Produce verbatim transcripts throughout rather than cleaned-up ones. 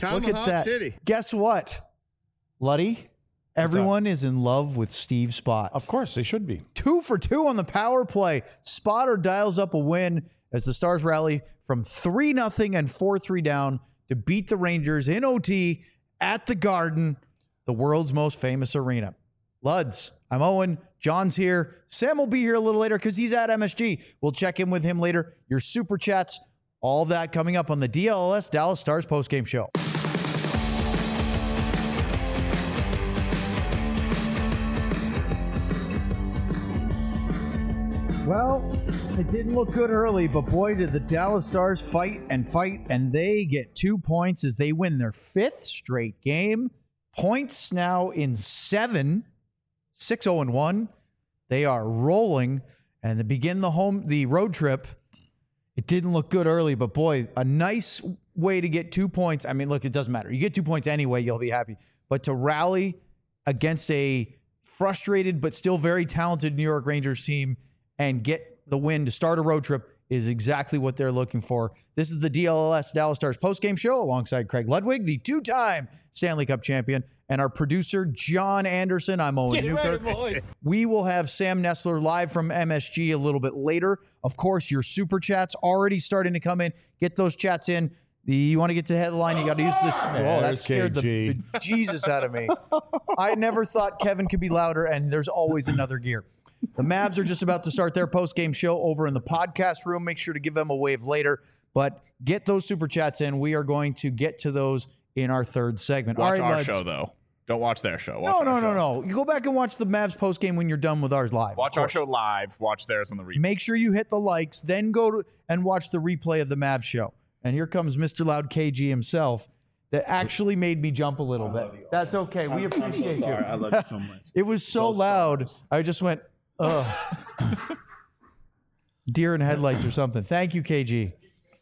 Look at that. City. Guess what, Luddy? Everyone is in love with Steve Spott. Of course, they should be. Two for two on the power play. Spotter dials up a win as the Stars rally from three nothing and four three down to beat the Rangers in O T at the Garden, the world's most famous arena. Luds, I'm Owen. John's here. Sam will be here a little later because he's at M S G. We'll check in with him later. Your super chats, all that coming up on the D L L S Dallas Stars postgame show. Well, it didn't look good early, but boy, did the Dallas Stars fight and fight, and they get two points as they win their fifth straight game. Points now in seven, six oh and one. They are rolling, and they begin the home the road trip. It didn't look good early, but boy, a nice way to get two points. I mean, look, it doesn't matter. You get two points anyway, you'll be happy. But to rally against a frustrated but still very talented New York Rangers team and get the win to start a road trip is exactly what they're looking for. This is the D L L S Dallas Stars postgame show alongside Craig Ludwig, the two-time Stanley Cup champion, and our producer, John Anderson. I'm Owen Get Newkirk. ready, boys. We will have Sam Nestler live from M S G a little bit later. Of course, your super chats already starting to come in. Get those chats in. The, you want to get to the headline, you got to use this. Oh, that There's scared the, K G. the Jesus out of me. I never thought Kevin could be louder, and there's always another gear. The Mavs are just about to start their post-game show over in the podcast room. Make sure to give them a wave later. But get those super chats in. We are going to get to those in our third segment. Watch All right, our lads. show, though. Don't watch their show. Watch No, our no, no, show. no. You go back and watch the Mavs post-game when you're done with ours live. Watch of our course. show live. Watch theirs on the replay. Make sure you hit the likes, then go to and watch the replay of the Mavs show. And here comes Mister Loud K G himself. That actually made me jump a little bit. That's okay. We appreciate you. I love you so much. It was so Go loud. Stars. I just went, ugh. Deer in headlights or something. Thank you, K G.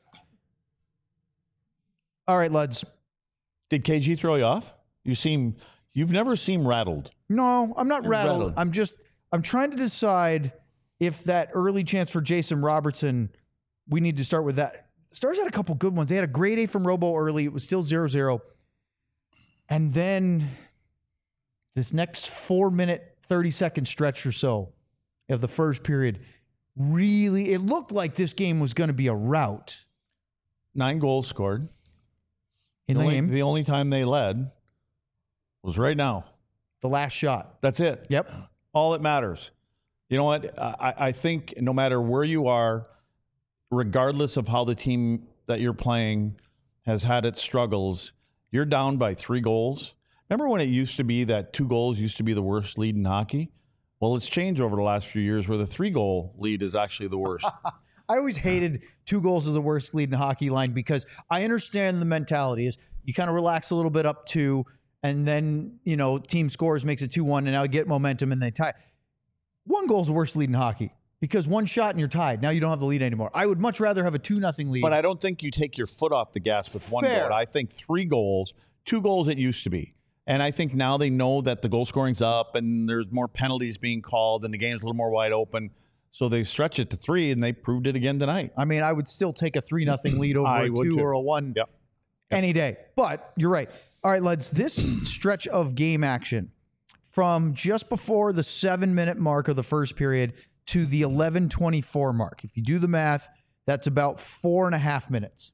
All right, Luds. Did K G throw you off? You seem, you've never seemed rattled. No, I'm not You're rattled. rattled. I'm just, I'm trying to decide if that early chance for Jason Robertson, we need to start with that. Stars had a couple good ones. They had a great A from Robo early. It was still zero zero. And then this next four-minute, thirty-second stretch or so of the first period, really, it looked like this game was going to be a rout Nine goals scored. in the the only, game. The only time they led was right now. The last shot. That's it. Yep. All that matters. You know what? I, I think no matter where you are, regardless of how the team that you're playing has had its struggles, you're down by three goals. Remember when it used to be that two goals used to be the worst lead in hockey? Well, it's changed over the last few years where the three-goal lead is actually the worst. I always hated two goals as the worst lead in hockey line because I understand the mentality is you kind of relax a little bit up two, and then, you know, team scores, makes it two one, and now you get momentum and they tie. One goal is the worst lead in hockey because one shot and you're tied. Now you don't have the lead anymore. I would much rather have a two nothing lead. But I don't think you take your foot off the gas with one Fair. goal. I think three goals, two goals it used to be. And I think now they know that the goal scoring's up and there's more penalties being called and the game's a little more wide open. So they stretch it to three, and they proved it again tonight. I mean, I would still take a three nothing lead over I a would two too. or a one Yep. any day. But you're right. All right, lads, this stretch of game action from just before the seven-minute mark of the first period to the eleven twenty-four mark. If you do the math, that's about four and a half minutes.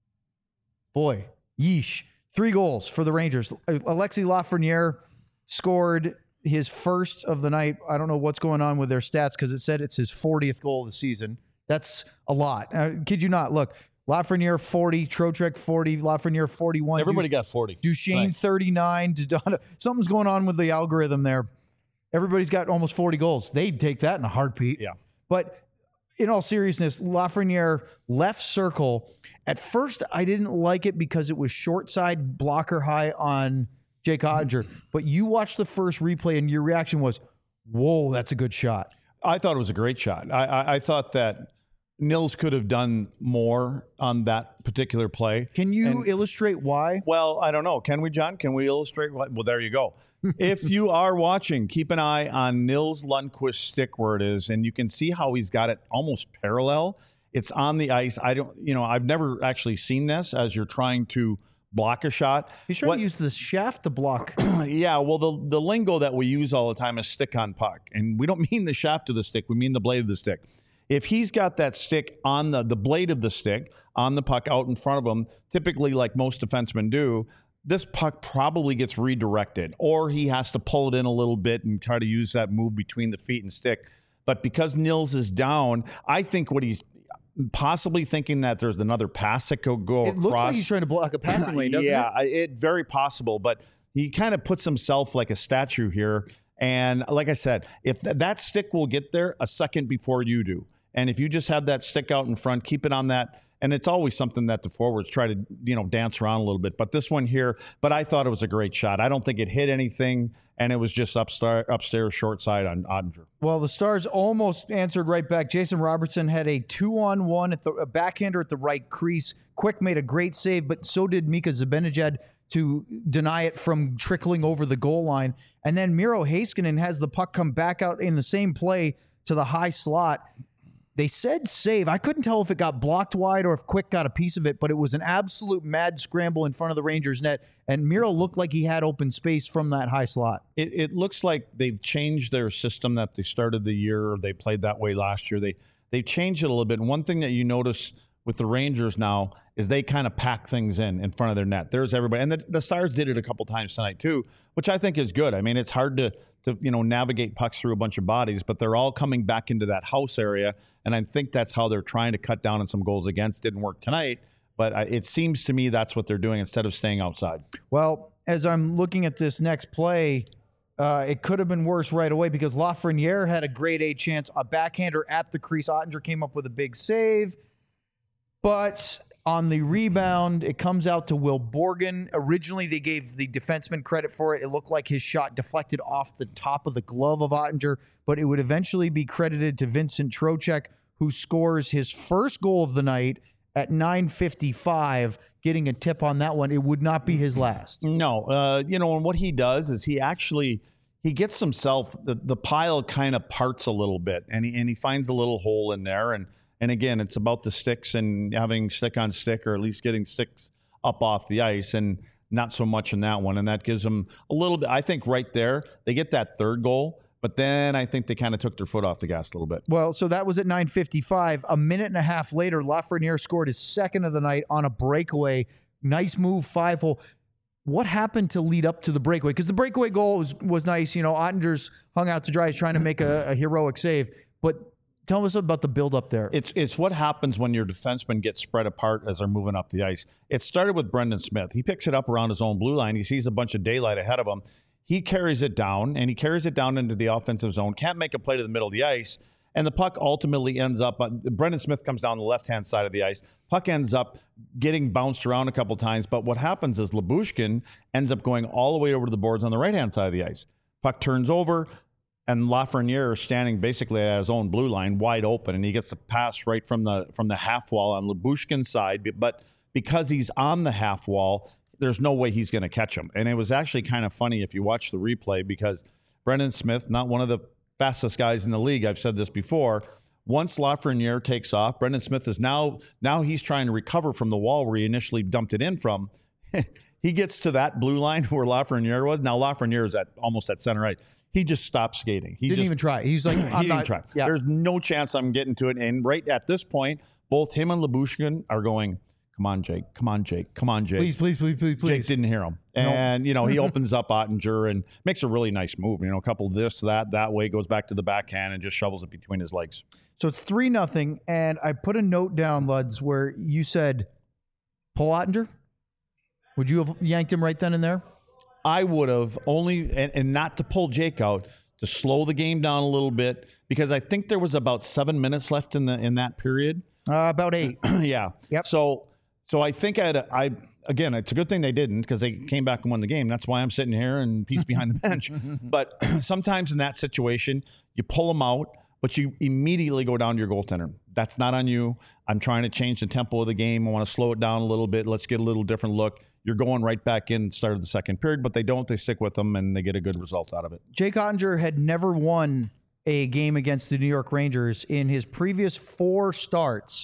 Boy, yeesh. Three goals for the Rangers. Alexis Lafreniere scored his first of the night. I don't know what's going on with their stats because it said it's his fortieth goal of the season. That's a lot. Uh, kid you not. Look, Lafreniere forty, Trocheck forty, Lafreniere forty-one. Everybody Du- got forty. Duchesne Right. thirty-nine. Dodonna. Something's going on with the algorithm there. Everybody's got almost forty goals. They'd take that in a heartbeat. Yeah. But in all seriousness, Lafreniere left circle. At first, I didn't like it because it was short side blocker high on Jake Odger. But you watched the first replay and your reaction was, whoa, that's a good shot. I thought it was a great shot. I, I, I thought that Nils could have done more on that particular play. Can you And- illustrate why? Well, I don't know. Can we, John? Can we illustrate what? Well, there you go. If you are watching, keep an eye on Nils Lundqvist's stick where it is, and you can see how he's got it almost parallel. It's on the ice. I don't, you know, I've never actually seen this as you're trying to block a shot. He's trying What- to use the shaft to block. Yeah, well, the the lingo that we use all the time is stick on puck, and we don't mean the shaft of the stick. We mean the blade of the stick. If he's got that stick on the the blade of the stick on the puck out in front of him, typically like most defensemen do, this puck probably gets redirected, or he has to pull it in a little bit and try to use that move between the feet and stick. But because Nils is down, I think what he's possibly thinking that there's another pass that could go It across. looks like he's trying to block a passing lane, doesn't yeah, it? I- it very possible, but he kind of puts himself like a statue here. And like I said, if th- that stick will get there a second before you do, and if you just have that stick out in front, keep it on that. And it's always something that the forwards try to, you know, dance around a little bit. But this one here, but I thought it was a great shot. I don't think it hit anything, and it was just upstairs, upstairs short side on Ottinger. Well, the Stars almost answered right back. Jason Robertson had a two-on-one at the a backhander at the right crease. Quick made a great save, but so did Mika Zibanejad to deny it from trickling over the goal line. And then Miro Heiskanen has the puck come back out in the same play to the high slot. They said save. I couldn't tell if it got blocked wide or if Quick got a piece of it, but it was an absolute mad scramble in front of the Rangers net, and Miro looked like he had open space from that high slot. It, it looks like they've changed their system that they started the year, or they played that way last year. They they've changed it a little bit. And one thing that you notice with the Rangers now is they kind of pack things in in front of their net. There's everybody, and the, the Stars did it a couple times tonight too, which I think is good. I mean, it's hard to to you know navigate pucks through a bunch of bodies, but they're all coming back into that house area, and I think that's how they're trying to cut down on some goals against. Didn't work tonight, but I, it seems to me that's what they're doing instead of staying outside. Well, as I'm looking at this next play, uh, it could have been worse right away because Lafreniere had a grade A chance, a backhander at the crease. Ottinger came up with a big save, but on the rebound, it comes out to Will Borgen. Originally, they gave the defenseman credit for it. It looked like his shot deflected off the top of the glove of Ottinger, but it would eventually be credited to Vincent Trocheck, who scores his first goal of the night at nine fifty-five, getting a tip on that one. It would not be his last. No, uh, you know, and what he does is he actually he gets himself the, the pile kind of parts a little bit, and he and he finds a little hole in there, and and again, it's about the sticks and having stick on stick, or at least getting sticks up off the ice, and not so much in that one, and that gives them a little bit. I think right there they get that third goal. But then I think they kind of took their foot off the gas a little bit. Well, so that was at nine fifty-five. A minute and a half later, Lafreniere scored his second of the night on a breakaway. Nice move, five hole. What happened to lead up to the breakaway? Because the breakaway goal was, was nice. You know, Ottinger's hung out to dry. He's trying to make a, a heroic save. But tell us about the build-up there. It's it's what happens when your defensemen get spread apart as they're moving up the ice. It started with Brendan Smith. He picks it up around his own blue line. He sees a bunch of daylight ahead of him. He carries it down, and he carries it down into the offensive zone. Can't make a play to the middle of the ice, and the puck ultimately ends up on, Brendan Smith comes down the left-hand side of the ice. Puck ends up getting bounced around a couple times, but what happens is Lyubushkin ends up going all the way over to the boards on the right-hand side of the ice. Puck turns over, and Lafreniere is standing basically at his own blue line, wide open, and he gets a pass right from the from the half wall on Lyubushkin's side, but because he's on the half wall, there's no way he's going to catch him. And it was actually kind of funny if you watch the replay, because Brendan Smith, not one of the fastest guys in the league, I've said this before, once Lafreniere takes off, Brendan Smith is now, now he's trying to recover from the wall where he initially dumped it in from. He gets to that blue line where Lafreniere was. Now Lafreniere is at almost at center right. He just stopped skating. He didn't just, even try. He's like, I'm he not. didn't try. Yeah. There's no chance I'm getting to it. And right at this point, both him and Lyubushkin are going, come on, Jake. Come on, Jake. Come on, Jake. Please, please, please, please, please. Jake didn't hear him. And, you know, he opens up Ottinger and makes a really nice move. You know, a couple of this, that, that way, goes back to the backhand and just shovels it between his legs. So it's three nothing, and I put a note down, Luds, where you said, pull Ottinger? Would you have yanked him right then and there? I would have only, and, and not to pull Jake out, to slow the game down a little bit, because I think there was about seven minutes left in the in that period. Uh, about eight. Yeah. Yep. So, so I think I'd, I, again, it's a good thing they didn't, because they came back and won the game. That's why I'm sitting here and peace behind the bench. But sometimes in that situation, you pull them out, but you immediately go down to your goaltender. That's not on you. I'm trying to change the tempo of the game. I want to slow it down a little bit. Let's get a little different look. You're going right back in at the start of the second period, but they don't. They stick with them, and they get a good result out of it. Jake Ottinger had never won a game against the New York Rangers. In his previous four starts,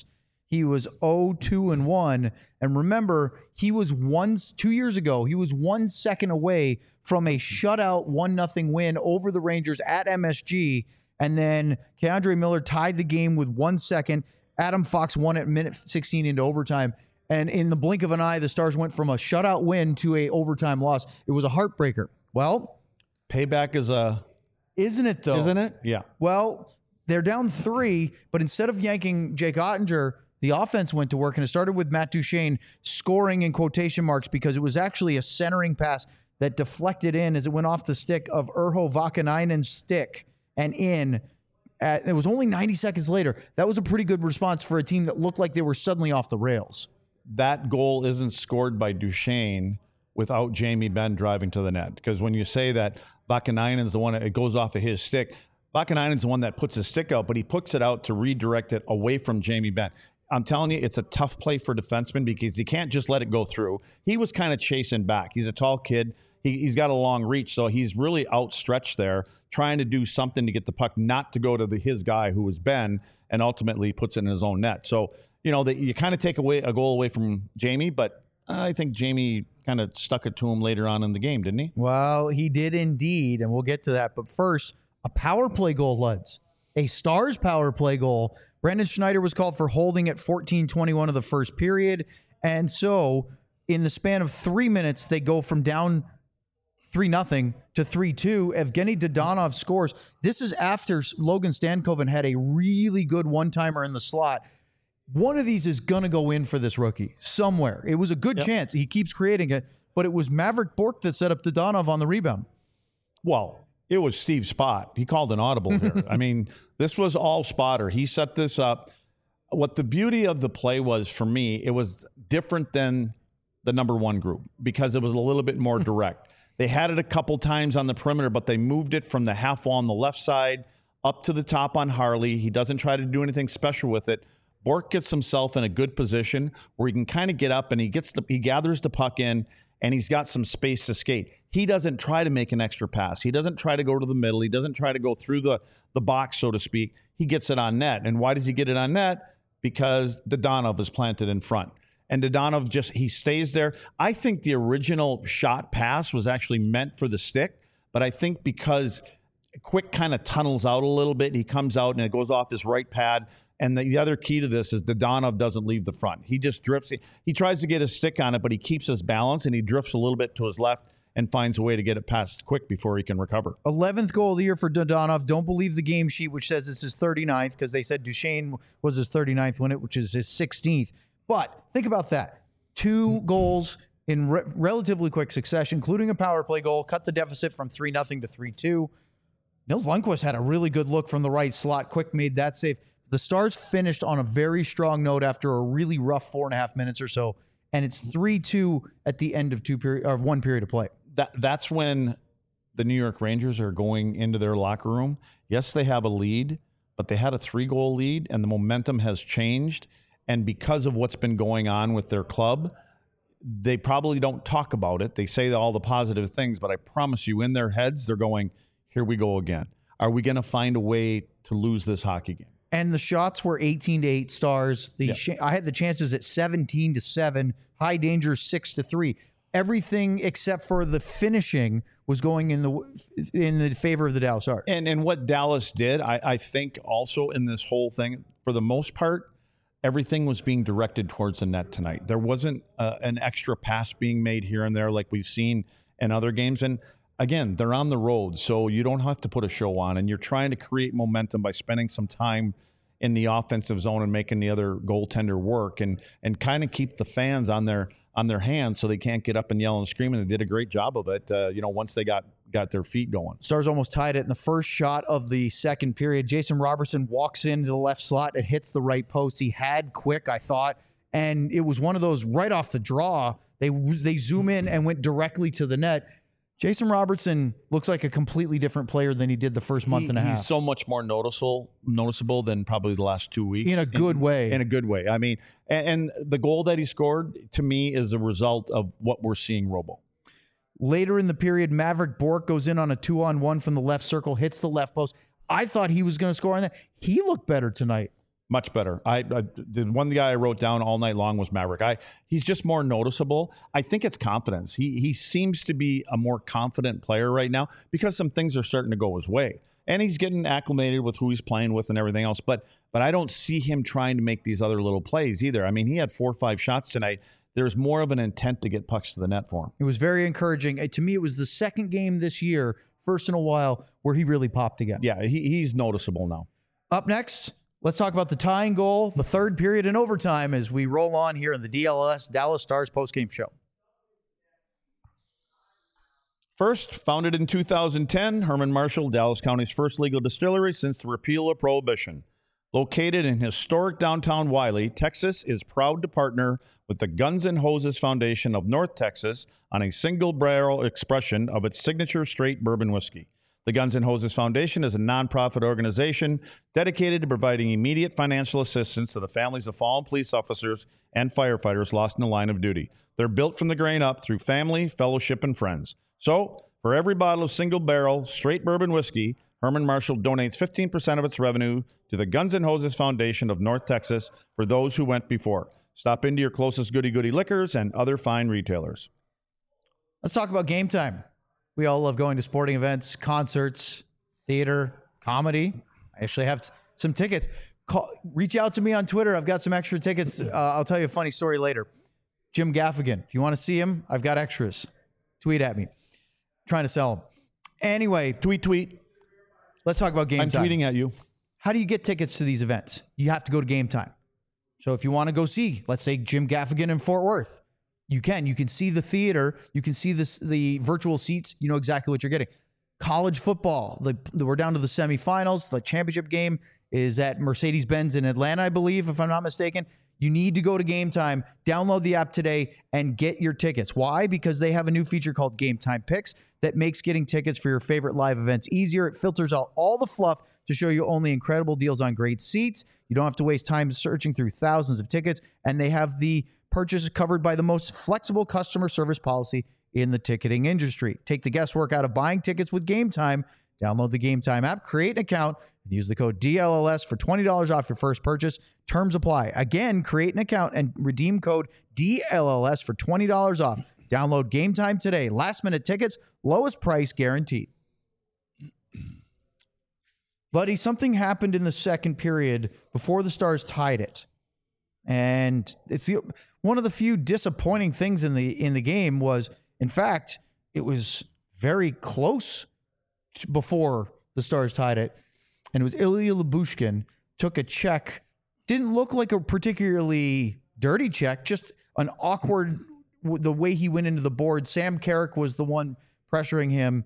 He was oh two and one. And remember, he was one, two years ago, he was one second away from a shutout one nothing win over the Rangers at M S G. And then Keandre Miller tied the game with one second. Adam Fox won at minute sixteen into overtime. And in the blink of an eye, the Stars went from a shutout win to a overtime loss. It was a heartbreaker. Well, payback is a... Isn't it, though? Isn't it? Yeah. Well, they're down three, but instead of yanking Jake Ottinger, the offense went to work, and it started with Matt Duchene scoring in quotation marks because it was actually a centering pass that deflected in as it went off the stick of Urho Vakanainen's stick and in. At, it was only ninety seconds later. That was a pretty good response for a team that looked like they were suddenly off the rails. That goal isn't scored by Duchene without Jamie Benn driving to the net. Because when you say that Vakanainen's the one, it goes off of his stick. Vakanainen's the one that puts his stick out, but he puts it out to redirect it away from Jamie Benn. I'm telling you, it's a tough play for defensemen because you can't just let it go through. He was kind of chasing back. He's a tall kid. He, he's got a long reach, so he's really outstretched there, trying to do something to get the puck not to go to the, his guy, who was Ben, and ultimately puts it in his own net. So, you know, the, you kind of take away a goal away from Jamie, but I think Jamie kind of stuck it to him later on in the game, didn't he? Well, he did indeed, and we'll get to that. But first, a power play goal, Luds. A Stars power play goal. Brandon Schneider was called for holding at fourteen twenty-one of the first period. And so in the span of three minutes, they go from down three nothing to three two. Evgeny Dodonov scores. This is after Logan Stankoven had a really good one-timer in the slot. One of these is going to go in for this rookie somewhere. It was a good yep. chance. He keeps creating it, but it was Maverick Bourque that set up Dodonov on the rebound. Well, it was Steve Spott. He called an audible here. I mean, this was all Spotter. He set this up. What the beauty of the play was for me, it was different than the number one group because it was a little bit more direct. They had it a couple times on the perimeter, but they moved it from the half wall on the left side up to the top on Harley. He doesn't try to do anything special with it. Bourque gets himself in a good position where he can kind of get up and he gets the, he gathers the puck in and he's got some space to skate. He doesn't try to make an extra pass. He doesn't try to go to the middle. He doesn't try to go through the, the box, so to speak. He gets it on net. And why does he get it on net? Because Dodonov is planted in front. And Dodonov just, he stays there. I think the original shot pass was actually meant for the stick, but I think because Quick kind of tunnels out a little bit, he comes out and it goes off his right pad. And the, the other key to this is Dodonov doesn't leave the front. He just drifts. He, he tries to get his stick on it, but he keeps his balance and he drifts a little bit to his left and finds a way to get it past Quick before he can recover. eleventh goal of the year for Dodonov. Don't believe the game sheet, which says it's his thirty-ninth, because they said Duchene was his thirty-ninth win, which is his sixteenth. But think about that. Two goals in re- relatively quick succession, including a power play goal, cut the deficit from three nothing to three two. Nils Lundqvist had a really good look from the right slot. Quick made that save. The Stars finished on a very strong note after a really rough four and a half minutes or so, and it's three two at the end of two period or one period of play. That that's when the New York Rangers are going into their locker room. Yes, they have a lead, but they had a three-goal lead, and the momentum has changed. And because of what's been going on with their club, they probably don't talk about it. They say all the positive things, but I promise you, in their heads, they're going, "Here we go again. Are we going to find a way to lose this hockey game?" And the shots were eighteen to eight Stars. The yeah. sh- I had the chances at seventeen to seven, high danger six to three. Everything except for the finishing was going in the in the favor of the Dallas Stars. And and what Dallas did, I, I think also in this whole thing, for the most part, everything was being directed towards the net tonight. There wasn't uh, an extra pass being made here and there like we've seen in other games. And again, they're on the road, so you don't have to put a show on, and you're trying to create momentum by spending some time in the offensive zone and making the other goaltender work, and and kind of keep the fans on their on their hands so they can't get up and yell and scream. And they did a great job of it. Uh, you know, once they got got their feet going. Stars almost tied it in the first shot of the second period. Jason Robertson walks into the left slot and hits the right post. He had Quick, I thought, and it was one of those right off the draw. They they zoom in and went directly to the net. Jason Robertson looks like a completely different player than he did the first month he, and a half. He's so much more noticeable, noticeable than probably the last two weeks. In a good in, way. In a good way. I mean, and, and the goal that he scored, to me, is a result of what we're seeing Robo. Later in the period, Maverick Bourque goes in on a two-on-one from the left circle, hits the left post. I thought he was going to score on that. He looked better tonight. Much better. I, I the one guy I wrote down all night long was Maverick. I he's just more noticeable. I think it's confidence. He he seems to be a more confident player right now because some things are starting to go his way, and he's getting acclimated with who he's playing with and everything else. But but I don't see him trying to make these other little plays either. I mean, he had four or five shots tonight. There's more of an intent to get pucks to the net for him. It was very encouraging. Uh, To me, it was the second game this year, first in a while, where he really popped again. Yeah, he, he's noticeable now. Up next, let's talk about the tying goal, the third period in overtime as we roll on here in the D L S Dallas Stars postgame show. First, founded in two thousand ten, Herman Marshall, Dallas County's first legal distillery since the repeal of Prohibition. Located in historic downtown Wiley, Texas is proud to partner with the Guns N' Hoses Foundation of North Texas on a single barrel expression of its signature straight bourbon whiskey. The Guns N' Hoses Foundation is a nonprofit organization dedicated to providing immediate financial assistance to the families of fallen police officers and firefighters lost in the line of duty. They're built from the grain up through family, fellowship, and friends. So, for every bottle of single barrel straight bourbon whiskey, Herman Marshall donates fifteen percent of its revenue to the Guns N' Hoses Foundation of North Texas for those who went before. Stop into your closest Goody Goody Liquors and other fine retailers. Let's talk about game time. We all love going to sporting events, concerts, theater, comedy. I actually have t- some tickets. Call, reach out to me on Twitter. I've got some extra tickets. Uh, I'll tell you a funny story later. Jim Gaffigan. If you want to see him, I've got extras. Tweet at me. Trying to sell them. Anyway, Tweet, tweet. let's talk about game I'm time. tweeting at you. How do you get tickets to these events? You have to go to Game Time. So if you want to go see, let's say, Jim Gaffigan in Fort Worth, you can. You can see the theater. You can see this, the virtual seats. You know exactly what you're getting. College football. The, the, we're down to the semifinals. The championship game is at Mercedes-Benz in Atlanta, I believe, if I'm not mistaken. You need to go to Game Time, download the app today, and get your tickets. Why? Because they have a new feature called Game Time Picks that makes getting tickets for your favorite live events easier. It filters out all the fluff to show you only incredible deals on great seats. You don't have to waste time searching through thousands of tickets, and they have the purchase covered by the most flexible customer service policy in the ticketing industry. Take the guesswork out of buying tickets with Game Time. Download the Game Time app, create an account, and use the code D L L S for twenty dollars off your first purchase. Terms apply. Again, create an account and redeem code D L L S for twenty dollars off. Download Game Time today. Last minute tickets, lowest price guaranteed. Buddy, something happened in the second period before the Stars tied it. And it's the, one of the few disappointing things in the in the game was, in fact, it was very close before the Stars tied it. And it was Ilya Lyubushkin took a check. Didn't look like a particularly dirty check, just an awkward, the way he went into the board. Sam Carrick was the one pressuring him.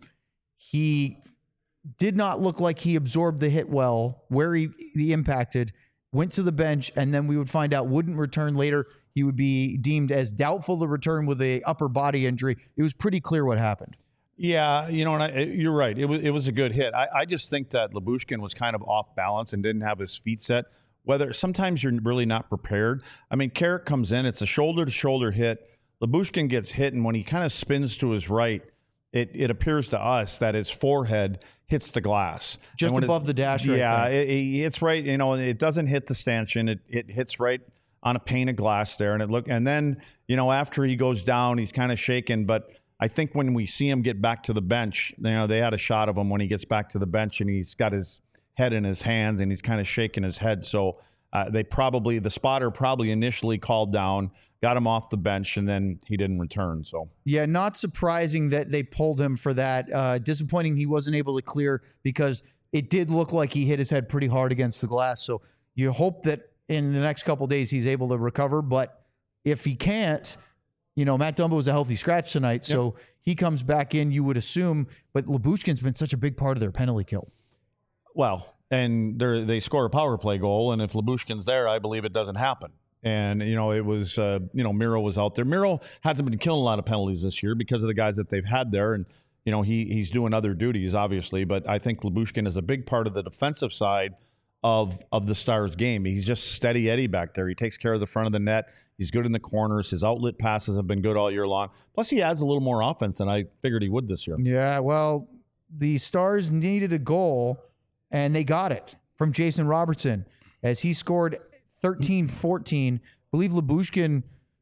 He did not look like he absorbed the hit well, where he, he impacted, went to the bench, and then we would find out wouldn't return later. He would be deemed as doubtful to return with a upper body injury. It was pretty clear what happened. Yeah, you know, and I, you're right. It was it was a good hit. I, I just think that Lyubushkin was kind of off balance and didn't have his feet set. Whether sometimes you're really not prepared. I mean, Carrick comes in, it's a shoulder-to-shoulder hit. Lyubushkin gets hit, and when he kind of spins to his right, it it appears to us that his forehead hits the glass. Just above the dasher. Yeah, it, it, it's right. You know, it doesn't hit the stanchion. It it hits right on a pane of glass there, and it look. And then, you know, after he goes down, he's kind of shaken, but I think when we see him get back to the bench, you know, they had a shot of him when he gets back to the bench and he's got his head in his hands and he's kind of shaking his head. So uh, they probably, the spotter probably initially called down, got him off the bench, and then he didn't return. So yeah, not surprising that they pulled him for that. Uh, disappointing he wasn't able to clear because it did look like he hit his head pretty hard against the glass. So you hope that in the next couple of days he's able to recover. But if he can't, you know, Matt Dumba was a healthy scratch tonight, so yep. He comes back in, you would assume. But Lyubushkin's been such a big part of their penalty kill. Well, and they score a power play goal, and if Lyubushkin's there, I believe it doesn't happen. And, you know, it was, uh, you know, Miro was out there. Miro hasn't been killing a lot of penalties this year because of the guys that they've had there. And, you know, he he's doing other duties, obviously. But I think Lyubushkin is a big part of the defensive side of of the Stars game. He's just steady Eddie back there. He takes care of the front of the net. He's good in the corners. His outlet passes have been good all year long. Plus, he adds a little more offense than I figured he would this year. Yeah, well, the Stars needed a goal, and they got it from Jason Robertson. as he scored thirteen fourteen. I believe Lyubushkin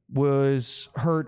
was hurt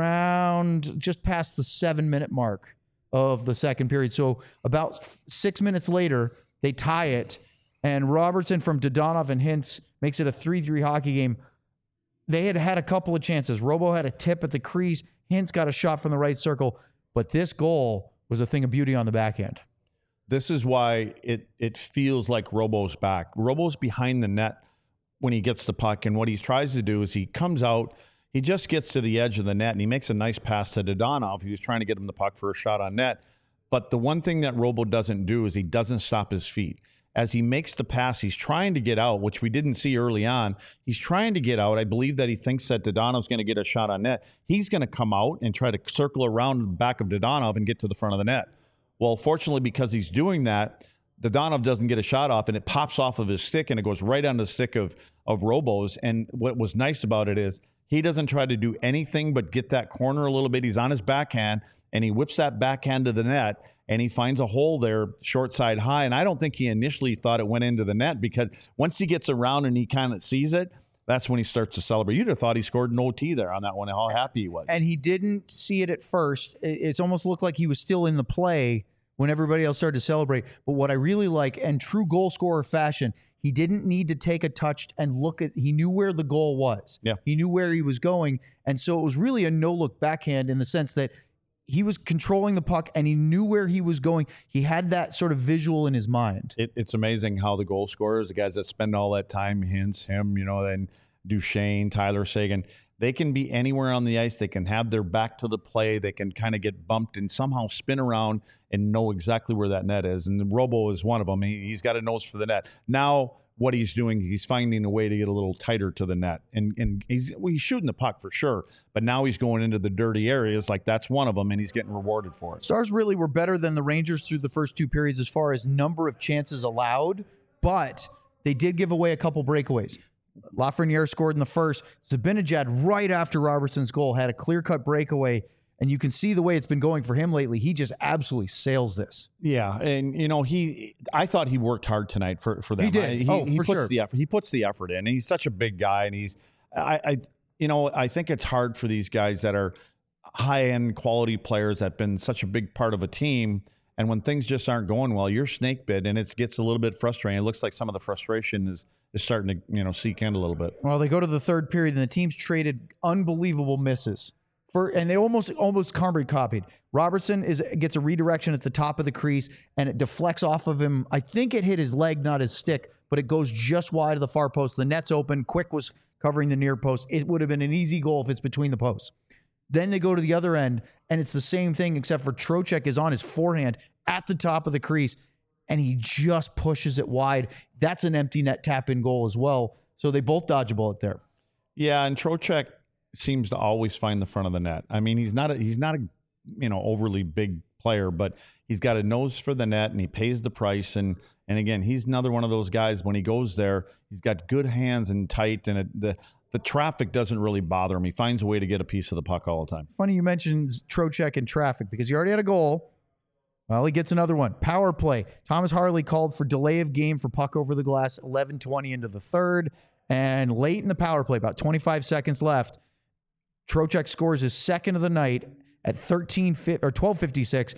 around just past the seven-minute mark of the second period. So about f- six minutes later, they tie it, and Robertson from Dodonov and Hintz makes it a three three hockey game. They had had a couple of chances. Robo had a tip at the crease. Hintz got a shot from the right circle, but this goal was a thing of beauty on the back end. This is why it it feels like Robo's back. Robo's behind the net when he gets the puck, and what he tries to do is he comes out, he just gets to the edge of the net, and he makes a nice pass to Dodonov. He was trying to get him the puck for a shot on net. But the one thing that Robo doesn't do is he doesn't stop his feet. As he makes the pass, he's trying to get out, which we didn't see early on. He's trying to get out. I believe that he thinks that Dodonov's going to get a shot on net. He's going to come out and try to circle around the back of Dodonov and get to the front of the net. Well, fortunately, because he's doing that, Dodonov doesn't get a shot off, and it pops off of his stick, and it goes right on the stick of, of Robo's. And what was nice about it is he doesn't try to do anything but get that corner a little bit. He's on his backhand, and he whips that backhand to the net, and he finds a hole there, short side high. And I don't think he initially thought it went into the net, because once he gets around and he kind of sees it, that's when he starts to celebrate. You'd have thought he scored an O T there on that one, how happy he was. And he didn't see it at first. It's almost looked like he was still in the play when everybody else started to celebrate. But what I really like, and true goal scorer fashion, he didn't need to take a touch and look at, he knew where the goal was. Yeah. He knew where he was going. And so it was really a no-look backhand in the sense that he was controlling the puck and he knew where he was going. He had that sort of visual in his mind. It, it's amazing how the goal scorers, the guys that spend all that time, Hintz, him, you know, then Duchesne, Tyler Seguin, they can be anywhere on the ice. They can have their back to the play. They can kind of get bumped and somehow spin around and know exactly where that net is. And the Robo is one of them. He, he's got a nose for the net. Now, what he's doing, he's finding a way to get a little tighter to the net. And and he's, well, he's shooting the puck for sure, but now he's going into the dirty areas. Like, that's one of them, and he's getting rewarded for it. Stars really were better than the Rangers through the first two periods as far as number of chances allowed, but they did give away a couple breakaways. Lafreniere scored in the first. Zibanejad, right after Robertson's goal, had a clear-cut breakaway, and you can see the way it's been going for him lately. He just absolutely sails this. Yeah, and you know, he I thought he worked hard tonight for for them. He did. He, oh, he for puts sure. the effort. He puts the effort in. And he's such a big guy, and he's I, I you know, I think it's hard for these guys that are high-end quality players that have been such a big part of a team. And when things just aren't going well, you're snake bit, and it gets a little bit frustrating. It looks like some of the frustration is is starting to, you know, seek in a little bit. Well, they go to the third period, and the team's traded unbelievable misses. For, and they almost almost carbon copied. Robertson is gets a redirection at the top of the crease, and it deflects off of him. I think it hit his leg, not his stick, but it goes just wide of the far post. The net's open. Quick was covering the near post. It would have been an easy goal if it's between the posts. Then they go to the other end, and it's the same thing, except for Trocheck is on his forehand at the top of the crease, and he just pushes it wide. That's an empty net tap-in goal as well. So they both dodge a bullet there. Yeah, and Trocheck seems to always find the front of the net. I mean, he's not a, he's not a you know overly big player, but he's got a nose for the net, and he pays the price. And and again, he's another one of those guys. When he goes there, he's got good hands and tight, and it, the the traffic doesn't really bother him. He finds a way to get a piece of the puck all the time. Funny you mentioned Trocheck and traffic, because he already had a goal. Well, he gets another one. Power play. Thomas Harley called for delay of game for puck over the glass, eleven twenty into the third. And late in the power play, about twenty-five seconds left, Trocheck scores his second of the night at thirteen or twelve fifty-six.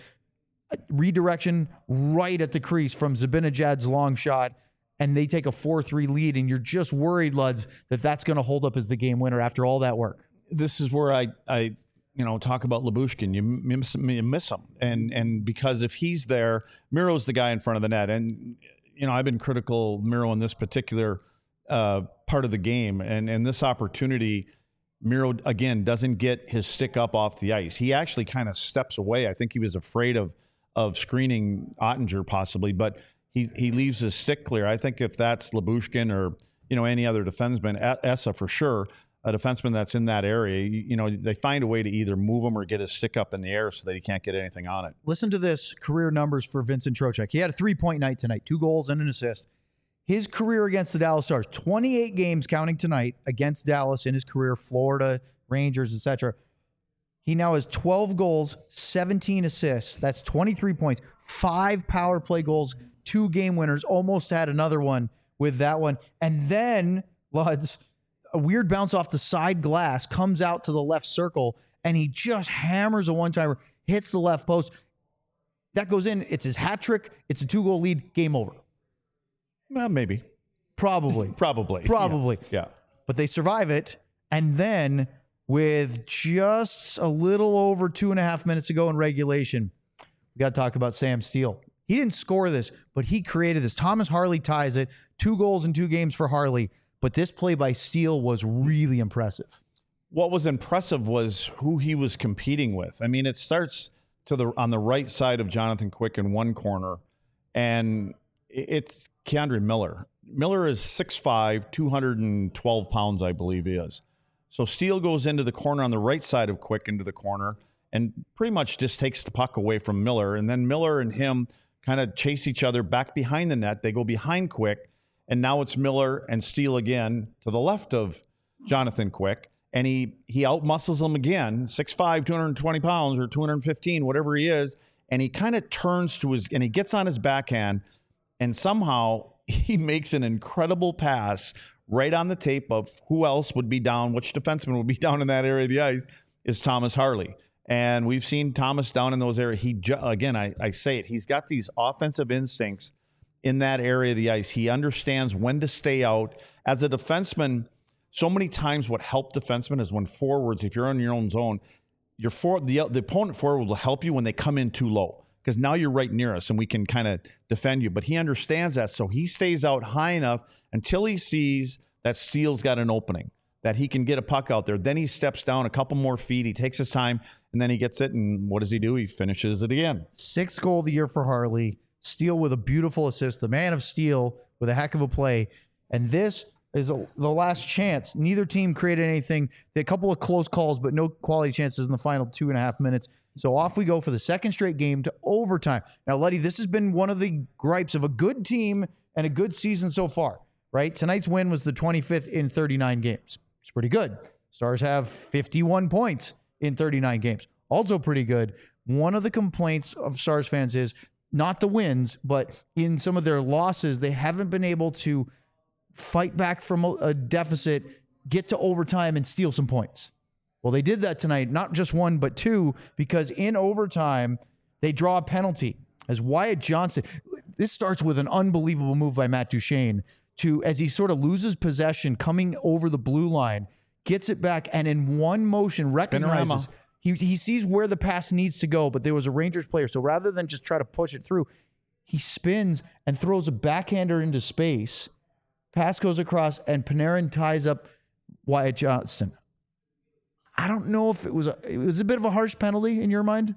Redirection right at the crease from Zibanejad's long shot, and they take a four three lead, and you're just worried, Luds, that that's going to hold up as the game winner after all that work. This is where I, I you know, talk about Lyubushkin. You miss, you miss him. And and because if he's there, Miro's the guy in front of the net. And, you know, I've been critical of Miro in this particular uh, part of the game. And, and this opportunity, Miro, again, doesn't get his stick up off the ice. He actually kind of steps away. I think he was afraid of of screening Ottinger possibly, but he, he leaves his stick clear. I think if that's Lyubushkin or, you know, any other defenseman, Essa for sure, a defenseman that's in that area, you, you know, they find a way to either move him or get his stick up in the air so that he can't get anything on it. Listen to this career numbers for Vincent Trocheck. He had a three-point night tonight, two goals and an assist. His career against the Dallas Stars, twenty-eight games counting tonight against Dallas in his career, Florida, Rangers, et cetera. He now has twelve goals, seventeen assists. That's twenty-three points, five power play goals, two game winners, almost had another one with that one. And then, Luds, a weird bounce off the side glass, comes out to the left circle, and he just hammers a one-timer, hits the left post. That goes in. It's his hat trick. It's a two-goal lead. Game over. Well, maybe. Probably. Probably. Probably. Yeah. yeah. But they survive it. And then with just a little over two and a half minutes to go in regulation, we got to talk about Sam Steele. He didn't score this, but he created this. Thomas Harley ties it. Two goals in two games for Harley. But this play by Steele was really impressive. What was impressive was who he was competing with. I mean, it starts to the on the right side of Jonathan Quick in one corner, and it's Keandre Miller. Miller is six five, two hundred twelve pounds, I believe he is. So Steele goes into the corner on the right side of Quick into the corner and pretty much just takes the puck away from Miller. And then Miller and him kind of chase each other back behind the net. They go behind Quick, and now it's Miller and Steele again to the left of Jonathan Quick. And he he outmuscles him again, six five, two hundred twenty pounds or two hundred fifteen, whatever he is. And he kind of turns to his, and he gets on his backhand, and somehow he makes an incredible pass right on the tape of who else would be down, which defenseman would be down in that area of the ice is Thomas Harley. And we've seen Thomas down in those areas. He, again, I, I say it, he's got these offensive instincts in that area of the ice. He understands when to stay out. As a defenseman, so many times what helped defensemen is when forwards, if you're on your own zone, your for, the, the opponent forward will help you when they come in too low, because now you're right near us and we can kind of defend you. But he understands that, so he stays out high enough until he sees that Steele's got an opening, that he can get a puck out there. Then he steps down a couple more feet, he takes his time, and then he gets it, and what does he do? He finishes it again. Sixth goal of the year for Harley. Steele with a beautiful assist. The man of steel with a heck of a play. And this is a, the last chance. Neither team created anything. They had a couple of close calls, but no quality chances in the final two and a half minutes. So off we go for the second straight game to overtime. Now, Luddy, this has been one of the gripes of a good team and a good season so far, right? Tonight's win was the twenty-fifth in thirty-nine games. It's pretty good. Stars have fifty-one points in thirty-nine games. Also pretty good. One of the complaints of Stars fans is not the wins, but in some of their losses, they haven't been able to fight back from a deficit, get to overtime, and steal some points. Well, they did that tonight, not just one, but two, because in overtime, they draw a penalty. As Wyatt Johnston, this starts with an unbelievable move by Matt Duchene to, as he sort of loses possession, coming over the blue line, gets it back, and in one motion recognizes, he, he sees where the pass needs to go, but there was a Rangers player. So rather than just try to push it through, he spins and throws a backhander into space. Pass goes across, and Panarin ties up Wyatt Johnston. I don't know if it was a, it was a bit of a harsh penalty in your mind.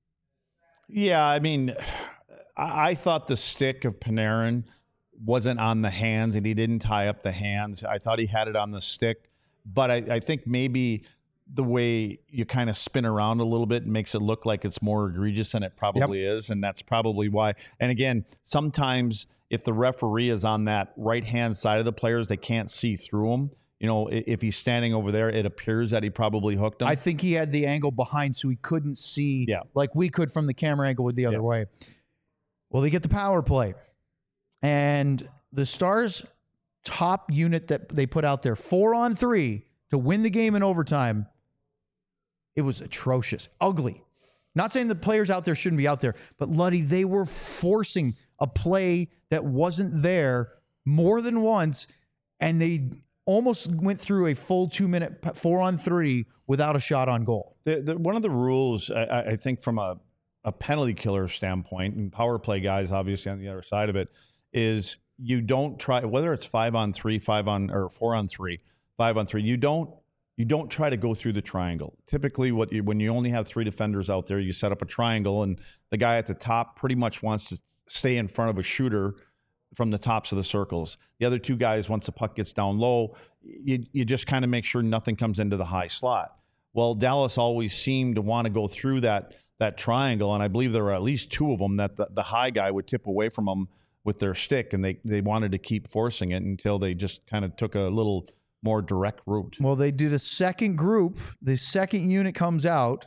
Yeah, I mean, I, I thought the stick of Panarin wasn't on the hands, and he didn't tie up the hands. I thought he had it on the stick, but I, I think maybe the way you kind of spin around a little bit makes it look like it's more egregious than it probably yep. is, and that's probably why. And again, sometimes if the referee is on that right-hand side of the players, they can't see through them. You know, if he's standing over there, it appears that he probably hooked him. I think he had the angle behind, so he couldn't see yeah. like we could from the camera angle with the other yeah. way. Well, they get the power play. And the Stars' top unit that they put out there, four on three to win the game in overtime, it was atrocious, ugly. Not saying the players out there shouldn't be out there, but Luddy, they were forcing a play that wasn't there more than once, and they almost went through a full two-minute four on three without a shot on goal. The, the, one of the rules, I, I think, from a, a penalty killer standpoint, and power play guys obviously on the other side of it, is you don't try, whether it's five on three, five on or four on three, five on three, you don't you don't try to go through the triangle. Typically, what you, when you only have three defenders out there, you set up a triangle, and the guy at the top pretty much wants to stay in front of a shooter from the tops of the circles. The other two guys, once the puck gets down low, you, you just kind of make sure nothing comes into the high slot. Well, Dallas always seemed to want to go through that that triangle, and I believe there were at least two of them that the, the high guy would tip away from them with their stick, and they, they wanted to keep forcing it until they just kind of took a little more direct route. Well, they did a second group. The second unit comes out,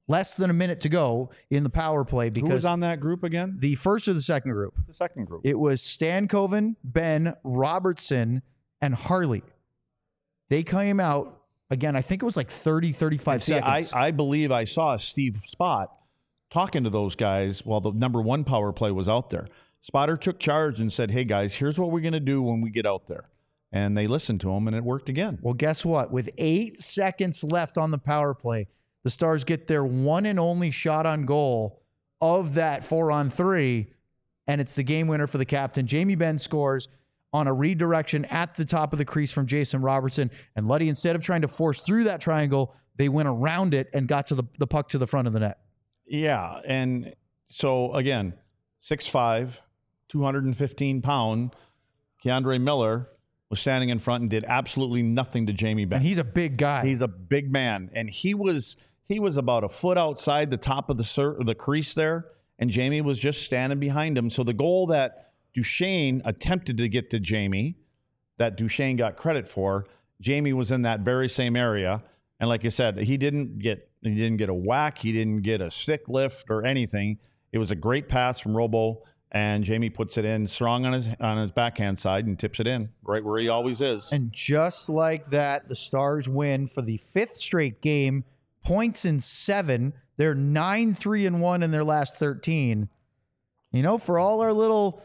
less than a minute to go in the power play because Who was on that group again? the first or the second group? The second group. It was Stankoven, Ben, Robertson, and Harley. They came out, again, I think it was like thirty, thirty-five See, seconds. I, I believe I saw Steve Spott talking to those guys while the number one power play was out there. Spotter took charge and said, hey, guys, here's what we're going to do when we get out there. And they listened to him, and it worked again. Well, guess what? With eight seconds left on the power play, the Stars get their one and only shot on goal of that four on three, and it's the game winner for the captain. Jamie Benn scores on a redirection at the top of the crease from Jason Robertson. And Luddy, instead of trying to force through that triangle, they went around it and got to the, the puck to the front of the net. Yeah, and so, again, six five, two hundred fifteen pound Keandre Miller was standing in front and did absolutely nothing to Jamie Benn. And he's a big guy. He's a big man, and he was he was about a foot outside the top of the cir- the crease there, and Jamie was just standing behind him. So the goal that Duchesne attempted to get to Jamie, that Duchesne got credit for, Jamie was in that very same area, and like I said, he didn't get he didn't get a whack, he didn't get a stick lift or anything. It was a great pass from Robo. And Jamie puts it in strong on his on his backhand side and tips it in right where he always is. And just like that, the Stars win for the fifth straight game, points in seven. They're nine, three, and one in their last thirteen. You know, for all our little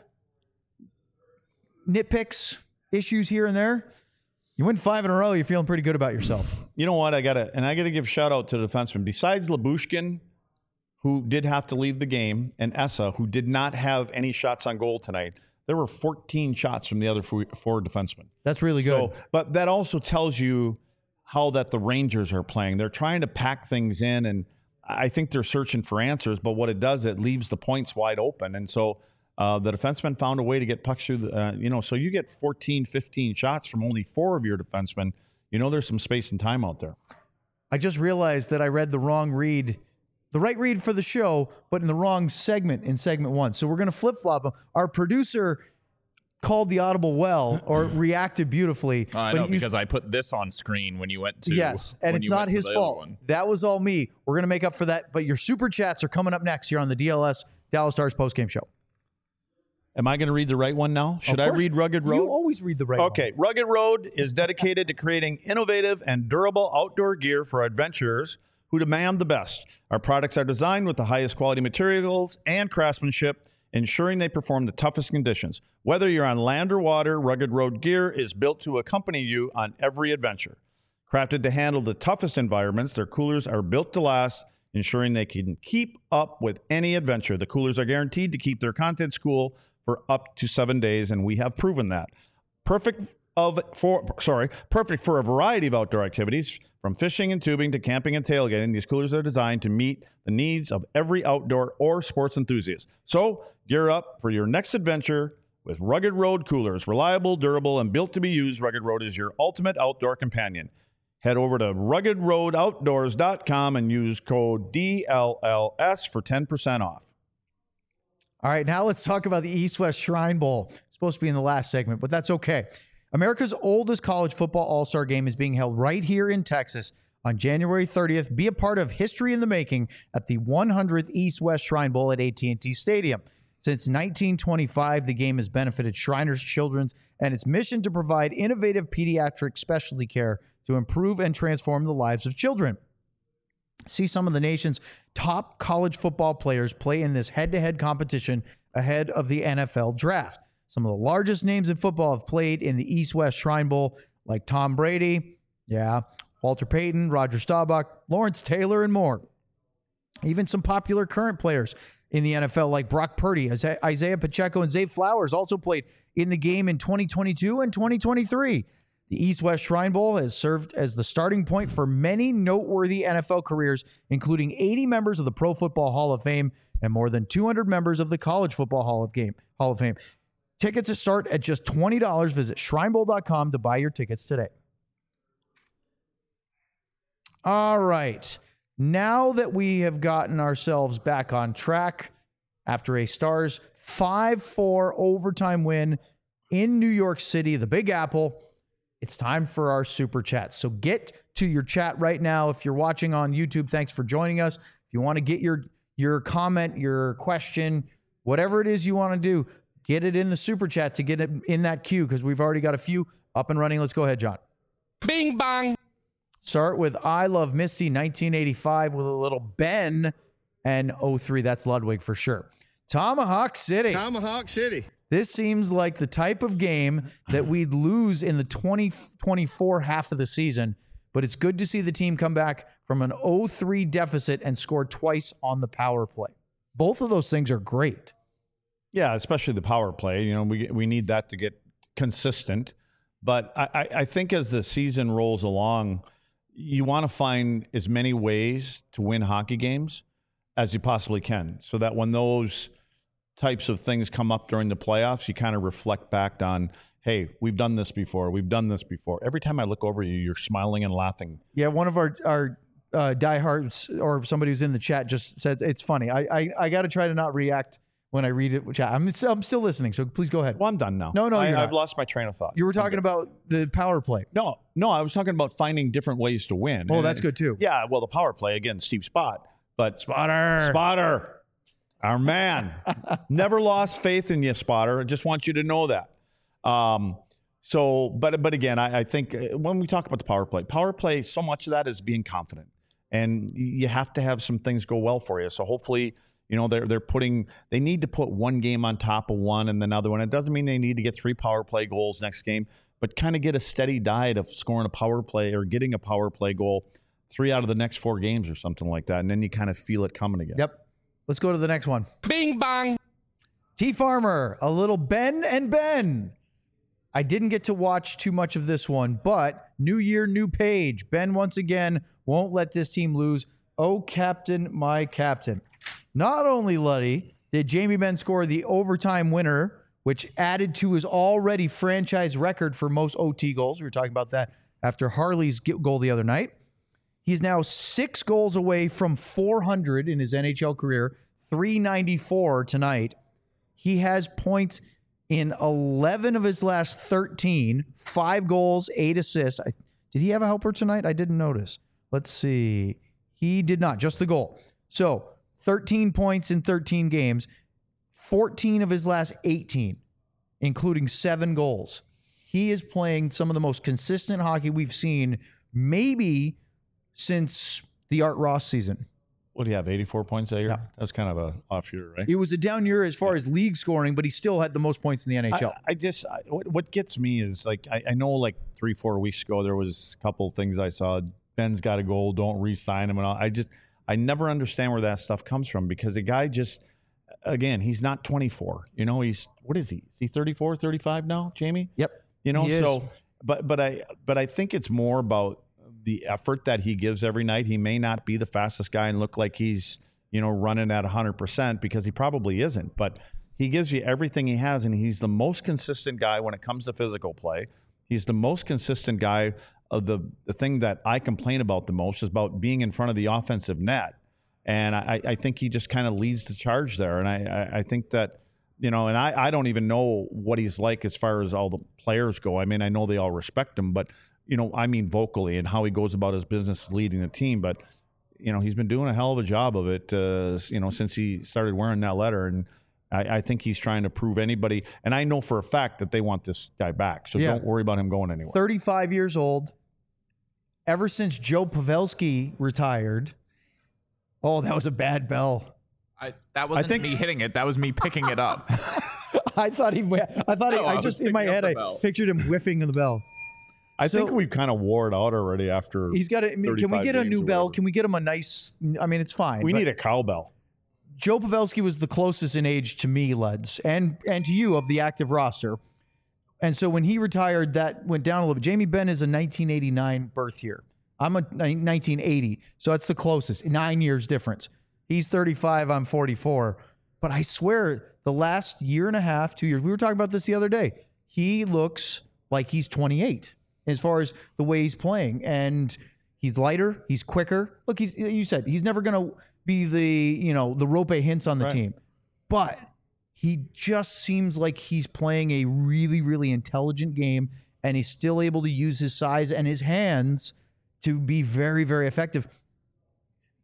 nitpicks, issues here and there, you win five in a row, you're feeling pretty good about yourself. You know what? I gotta and I gotta give shout out to the defenseman. Besides Lyubushkin, who did have to leave the game, and Essa, who did not have any shots on goal tonight. There were fourteen shots from the other four, four defensemen. That's really good. So, but that also tells you how that the Rangers are playing. They're trying to pack things in, and I think they're searching for answers, but what it does, it leaves the points wide open. And so uh, the defensemen found a way to get pucks through, the, uh, you know, so you get fourteen, fifteen shots from only four of your defensemen. You know there's some space and time out there. I just realized that I read the wrong read. The right read for the show, but in the wrong segment in segment one. So we're going to flip-flop them. Our producer called the audible well or reacted beautifully. Oh, I but know, he- because I put this on screen when you went to. Yes, and when it's you not went to his the other fault. one. That was all me. We're going to make up for that. But your super chats are coming up next here on the D L S Dallas Stars postgame show. Am I going to read the right one now? Should Of I course. read Rugged Road? You always read the right one. Okay, Rugged Road is dedicated to creating innovative and durable outdoor gear for adventurers who demand the best. Our products are designed with the highest quality materials and craftsmanship, ensuring they perform the toughest conditions. Whether you're on land or water, Rugged Road gear is built to accompany you on every adventure. Crafted to handle the toughest environments, their coolers are built to last, ensuring they can keep up with any adventure. The coolers are guaranteed to keep their contents cool for up to seven days, and we have proven that. Perfect of for sorry, perfect for a variety of outdoor activities, from fishing and tubing to camping and tailgating. These coolers are designed to meet the needs of every outdoor or sports enthusiast. So gear up for your next adventure with Rugged Road coolers. Reliable, durable, and built to be used, Rugged Road is your ultimate outdoor companion. Head over to rugged road outdoors dot com and use code D L L S for ten percent off. All right, now let's talk about the East-West Shrine Bowl. It's supposed to be in the last segment, but that's okay. America's oldest college football all-star game is being held right here in Texas on January thirtieth. Be a part of history in the making at the one hundredth East-West Shrine Bowl at A T and T Stadium. Since nineteen twenty-five, the game has benefited Shriners Children's and its mission to provide innovative pediatric specialty care to improve and transform the lives of children. See some of the nation's top college football players play in this head-to-head competition ahead of the N F L draft. Some of the largest names in football have played in the East-West Shrine Bowl, like Tom Brady, yeah, Walter Payton, Roger Staubach, Lawrence Taylor, and more. Even some popular current players in the N F L, like Brock Purdy, Isaiah Pacheco, and Zay Flowers, also played in the game in twenty twenty-two and twenty twenty-three. The East-West Shrine Bowl has served as the starting point for many noteworthy N F L careers, including eighty members of the Pro Football Hall of Fame and more than two hundred members of the College Football Hall of Game Hall of Fame. Tickets start at just twenty dollars. Visit shrine bowl dot com to buy your tickets today. All right. Now that we have gotten ourselves back on track after a Stars five four overtime win in New York City, the Big Apple, it's time for our super chat. So get to your chat right now. If you're watching on YouTube, thanks for joining us. If If you want to get your your comment, your question, whatever it is you want to do, get it in the super chat to get it in that queue because we've already got a few up and running. Let's go ahead, John. Bing bong. Start with I Love Misty nineteen eighty-five with a little Ben and oh three. That's Ludwig for sure. Tomahawk City. Tomahawk City. This seems like the type of game that we'd lose in the twenty twenty-four half of the season, but it's good to see the team come back from an oh three deficit and score twice on the power play. Both of those things are great. Yeah, especially the power play. You know, we we need that to get consistent. But I, I, I think as the season rolls along, you want to find as many ways to win hockey games as you possibly can, so that when those types of things come up during the playoffs, you kind of reflect back on, hey, we've done this before. We've done this before. Every time I look over you, you're smiling and laughing. Yeah, one of our our uh, diehards or somebody who's in the chat just said it's funny. I I, I got to try to not react when I read it. Chat. I'm I'm still listening, so please go ahead. Well, I'm done now. No, no, I, you're I've not. lost my train of thought. You were talking about the power play. No, no, I was talking about finding different ways to win. Oh, And- that's good too. Yeah, well, the power play again, Steve Spott, but Spotter. Spotter, our man, never lost faith in you, Spotter. I just want you to know that. Um, so, but but again, I, I think uh, when we talk about the power play, power play, so much of that is being confident, and you have to have some things go well for you. So hopefully, you know, they're they're putting they need to put one game on top of one and another one. It doesn't mean they need to get three power play goals next game, but kind of get a steady diet of scoring a power play or getting a power play goal three out of the next four games or something like that, and then you kind of feel it coming again. Yep. Let's go to the next one. Bing bong. T Farmer, a little Ben and Ben. I didn't get to watch too much of this one, but new year, new page. Ben once again won't let this team lose. Oh, captain, my captain. Not only, Luddy, did Jamie Benn score the overtime winner, which added to his already franchise record for most O T goals. We were talking about that after Harley's goal the other night. He's now six goals away from four hundred in his N H L career, three ninety-four tonight. He has points in eleven of his last thirteen, five goals, eight assists. I, did he have a helper tonight? I didn't notice. Let's see. He did not, just the goal. So thirteen points in thirteen games, fourteen of his last eighteen, including seven goals. He is playing some of the most consistent hockey we've seen, maybe since the Art Ross season. What do you have, eighty-four points that year? Yeah. That was kind of a off year, right? It was a down year as far as league scoring, but he still had the most points in the N H L. I, I just, I, what, what gets me is like, I, I know like three, four weeks ago, there was a couple of things I saw. Ben's got a goal, don't re-sign him and all. I just, I never understand where that stuff comes from because the guy just, again, he's not twenty-four. You know, he's, what is he? Is he thirty-four, thirty-five now, Jamie? Yep. You know, He is. so, but, but I, but I think it's more about the effort that he gives every night. He may not be the fastest guy and look like he's, you know, running at one hundred percent because he probably isn't, but he gives you everything he has, and he's the most consistent guy when it comes to physical play. He's the most consistent guy. Of the, the thing that I complain about the most is about being in front of the offensive net, and I, I think he just kind of leads the charge there, and I, I, I think that, you know, and I, I don't even know what he's like as far as all the players go. I mean, I know they all respect him, but, you know, I mean vocally and how he goes about his business leading the team, but you know, he's been doing a hell of a job of it, uh, you know, since he started wearing that letter. And I, I think he's trying to prove anybody. And I know for a fact that they want this guy back. So Yeah. don't worry about him going anywhere. thirty-five years old. Ever since Joe Pavelski retired. Oh, that was a bad bell. I, that wasn't think- me hitting it. That was me picking it up. I thought he. I thought he, No, I I was just in my picking up head the I bell. pictured him whiffing the bell. I So- think we've kind of wore it out already after. He's got a. Can we thirty-five get a games new or bell? whatever. Can we get him a nice? I mean, it's fine. We but need a cowbell. Joe Pavelski was the closest in age to me, Leds, and and to you of the active roster. And so when he retired, that went down a little bit. Jamie Benn is a nineteen eighty-nine birth year. I'm a nineteen eighty, so that's the closest. Nine years difference. He's thirty-five. I'm forty-four. But I swear, the last year and a half, two years, we were talking about this the other day. He looks like he's twenty-eight as far as the way he's playing, and he's lighter, he's quicker. Look, he's you said he's never going to be the you know the Rope Hints on the Right. team, but he just seems like he's playing a really, really intelligent game, and he's still able to use his size and his hands to be very, very effective.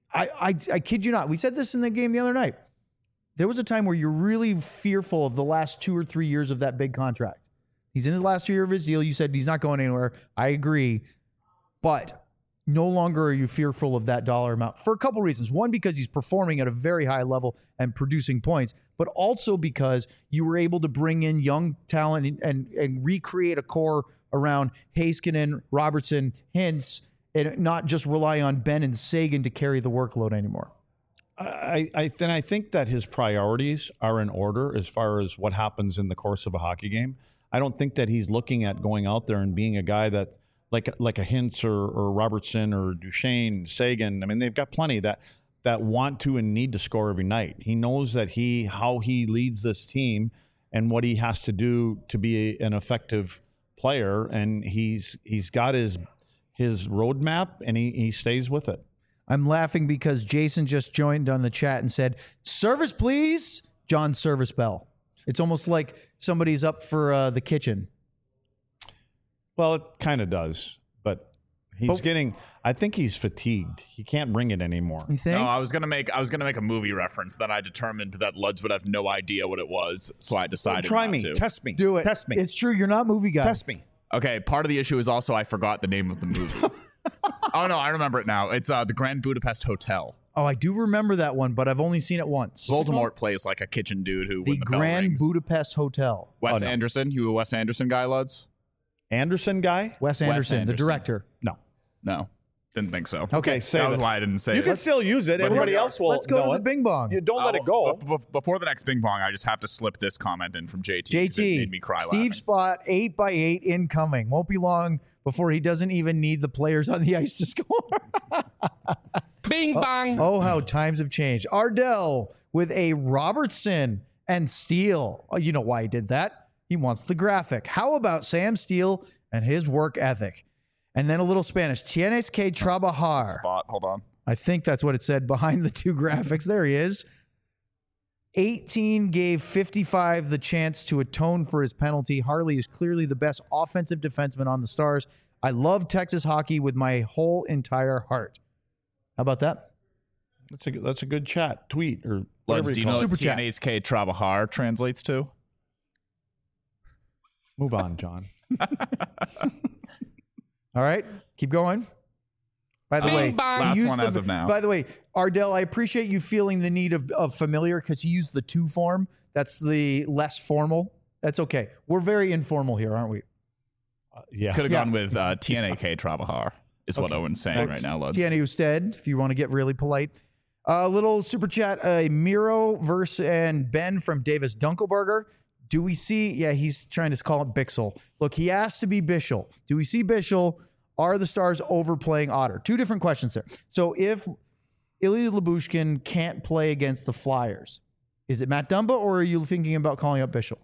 I, I I kid you not. We said this in the game the other night. There was a time where you're really fearful of the last two or three years of that big contract. He's in his last year of his deal. You said he's not going anywhere. I agree. But no longer are you fearful of that dollar amount for a couple reasons. One, because he's performing at a very high level and producing points, but also because you were able to bring in young talent and, and, and recreate a core around Heiskanen, Robertson, Hintz, and not just rely on Ben and Sagan to carry the workload anymore. I, I then I think that his priorities are in order as far as what happens in the course of a hockey game. I don't think that he's looking at going out there and being a guy that like like a Hintz or, or Robertson or Duchesne, Sagan. I mean, they've got plenty that that want to and need to score every night. He knows that he how he leads this team and what he has to do to be a, an effective player, and he's he's got his his roadmap and he, he stays with it. I'm laughing because Jason just joined on the chat and said, "Service, please." John Service Bell. It's almost like somebody's up for uh, the kitchen. Well, it kind of does, but he's But- getting. I think he's fatigued. He can't bring it anymore. You think? No, I was gonna make I was gonna make a movie reference. Then I determined that Luds would have no idea what it was, so I decided. Try not me, to. test me, Do it. test me, It's true. You're not a movie guy. test me. Okay, part of the issue is also I forgot the name of the movie. Oh no, I remember it now. It's uh, the Grand Budapest Hotel. Oh, I do remember that one, but I've only seen it once. Voldemort plays like a kitchen dude who The when the bell Grand rings. Budapest Hotel. Wes Oh, no. Anderson. You a Wes Anderson guy, Luds? Anderson guy? Wes Anderson, the Anderson. director. No. No, didn't think so. Okay, say that was it. why I didn't say You it. can still use it. But Everybody here we else will. Let's go know to the it. Bing Bong. You don't let it Oh, go. b- b- before the next Bing Bong, I just have to slip this comment in from J T. J 'cause it T, made me cry Steve laughing. Spot, eight by eight incoming. Won't be long before he doesn't even need the players on the ice to score. Bing bang. Oh, how times have changed. Ardell with a Robertson and Steele. Oh, you know why he did that. He wants the graphic. How about Sam Steele and his work ethic? And then a little Spanish. Tienes que trabajar. Spot. Hold on. I think that's what it said behind the two graphics. There he is. eighteen gave fifty-five the chance to atone for his penalty. Harley is clearly the best offensive defenseman on the Stars. I love Texas hockey with my whole entire heart. How about that? That's a that's a good chat tweet or whatever Luds, do you call know it. Super what chat. Tienes que Trabajar translates to? Move on, John. All right, keep going. By the Bing way, bong. he Last used one the- as of now. By the way, Ardell, I appreciate you feeling the need of, of familiar because he used the to form. That's the less formal. That's okay. We're very informal here, aren't we? Uh, yeah. Could have Yeah. gone with uh, T N A K Trabajar, is what Okay. Owen's saying right now, Luds. Tiana Usted, if you want to get really polite. A uh, little super chat, uh, Miro verse and Ben from Davis Dunkelberger. Do we see, yeah, he's trying to call it Bixel. Look, he asked to be Bischel. Do we see Bischel? Are the Stars overplaying Otter? Two different questions there. So if Ilya Lyubushkin can't play against the Flyers, is it Matt Dumba or are you thinking about calling up Bischel?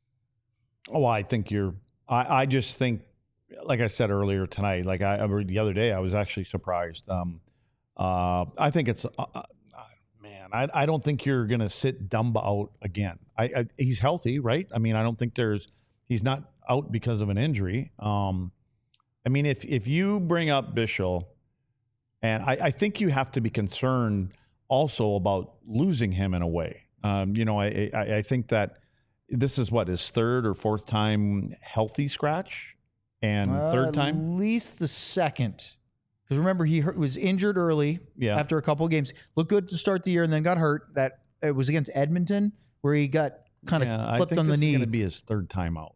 Oh, I think you're. I, I just think, like I said earlier tonight, like I or the other day, I was actually surprised. Um, uh, I think it's, uh, uh, man, I, I don't think you're going to sit Dumba out again. I, I he's healthy, right? I mean, I don't think there's he's not out because of an injury. Um, I mean, if if you bring up Bischel, and I, I think you have to be concerned also about losing him in a way. Um, you know, I, I I think that. This is what his third or fourth time healthy scratch, and Uh, third At time. least the second. Because remember, he hurt, was injured early Yeah. after a couple of games. Looked good to start the year and then got hurt. That it was against Edmonton where he got kind of Yeah, I clipped think on the this is knee. going to be his third time out,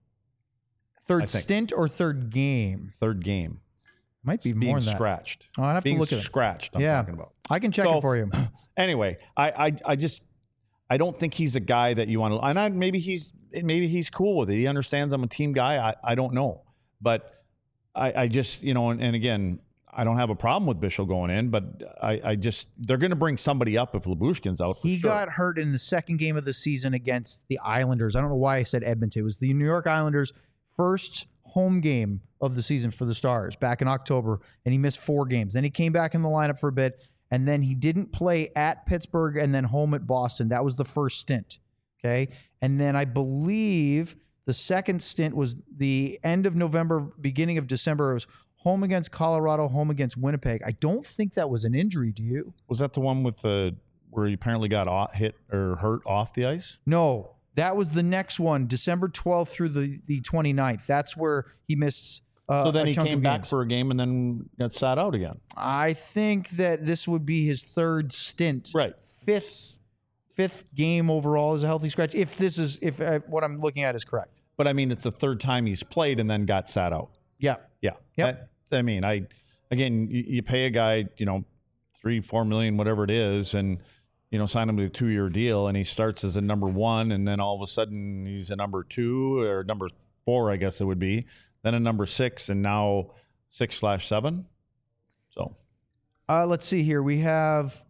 I Third think. stint or third game? third game. Might be Being more than that. scratched. Oh, I'd have Being to look at it. scratched. I'm Yeah. talking about. I can check So- it for you. Anyway, I, I I just I don't think he's a guy that you want to. And I, maybe he's maybe he's cool with it. He understands I'm a team guy. I, I don't know, but I, I just you know, and, and again, I don't have a problem with Bischel going in, but I, I just they're going to bring somebody up if Lyubushkin's out. For He sure. got hurt in the second game of the season against the Islanders. I don't know why I said Edmonton. It was the New York Islanders' first home game of the season for the Stars back in October, and he missed four games. Then he came back in the lineup for a bit, and then he didn't play at Pittsburgh and then home at Boston. That was the first stint. Okay. And then I believe the second stint was the end of November, beginning of December. It was home against Colorado, home against Winnipeg. I don't think that was an injury, do you? Was that the one with the where he apparently got off, hit or hurt off the ice? No, that was the next one, December twelfth through the, the twenty-ninth. That's where he missed uh, So then a he chunk came of back games. for a game and then got sat out again. I think that this would be his third stint. Right. Fifth fifth game overall as a healthy scratch. If this is if uh, what I'm looking at is correct. But I mean, it's the third time he's played and then got sat out. Yeah. Yeah. Yep. That, I mean, I again, you, you pay a guy, you know, three, four million, whatever it is, and you know, sign him to a two-year deal, and he starts as a number one, and then all of a sudden he's a number two or number four, I guess it would be, then a number six, and now six slash seven. So, Uh, let's see here. We have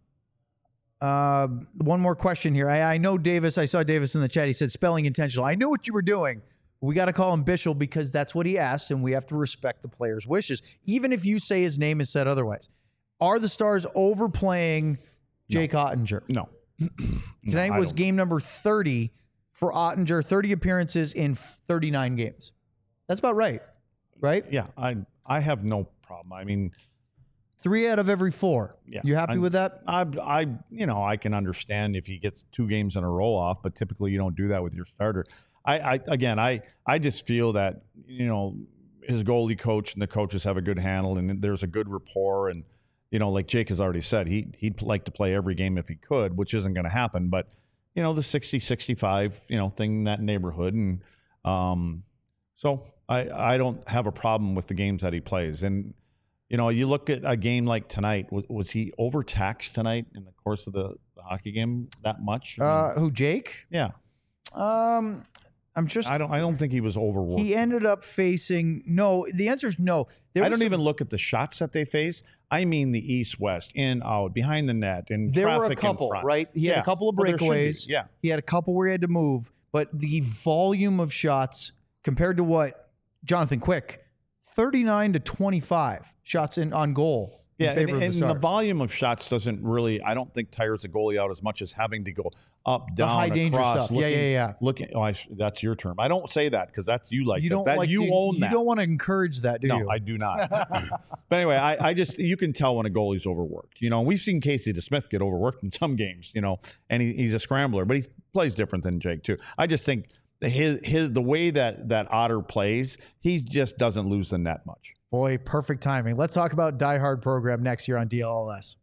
uh, one more question here. I, I know Davis. I saw Davis in the chat. He said spelling intentional. I knew what you were doing. We got to call him Bischel because that's what he asked, and we have to respect the player's wishes, even if you say his name is said otherwise. Are the Stars overplaying Jake Ottinger? no. Tonight No, I was don't. game number thirty for Ottinger, thirty appearances in thirty-nine games. That's about right, right? Yeah, I I have no problem. I mean, Three out of every four. Yeah, You happy I'm- with that? I I you know I can understand if he gets two games in a row off, but typically you don't do that with your starter. I, I again I I just feel that you know his goalie coach and the coaches have a good handle and there's a good rapport, and you know like Jake has already said he he'd like to play every game if he could, which isn't going to happen, but you know the sixty sixty-five you know thing in that neighborhood, and um so I I don't have a problem with the games that he plays. And you know, you look at a game like tonight. Was, was he overtaxed tonight in the course of the, the hockey game that much? I mean, Uh, who, Jake? yeah, Um, I'm just. I don't. I don't think he was overworked. He ended up facing no. The answer is no. There I was don't some- even look at the shots that they face. I mean, the east, west, in, out, behind the net, and There were a traffic in couple, front. right? He had Yeah. a couple of Well, there should be. breakaways. Yeah, He had a couple where he had to move, but the volume of shots compared to what Jonathan Quick, thirty-nine to twenty-five shots in on goal in yeah, favor and, of the and Stars. the volume of shots doesn't really. I don't think tires the goalie out as much as having to go up, down, the high danger across. stuff. Yeah, looking- yeah, yeah. Looking, oh, I, sh- that's your term. I don't say that because that's you like You that. don't that. like You to, own you that. don't want to encourage that, do no, you? I do not. But anyway, I, I just you can tell when a goalie's overworked. You know, we've seen Casey DeSmith get overworked in some games. You know, and he, he's a scrambler, but he plays different than Jake too. I just think his his the way that that Otter plays, he just doesn't lose the net much. Boy, perfect timing. Let's talk about Die Hard program next year on D L L S.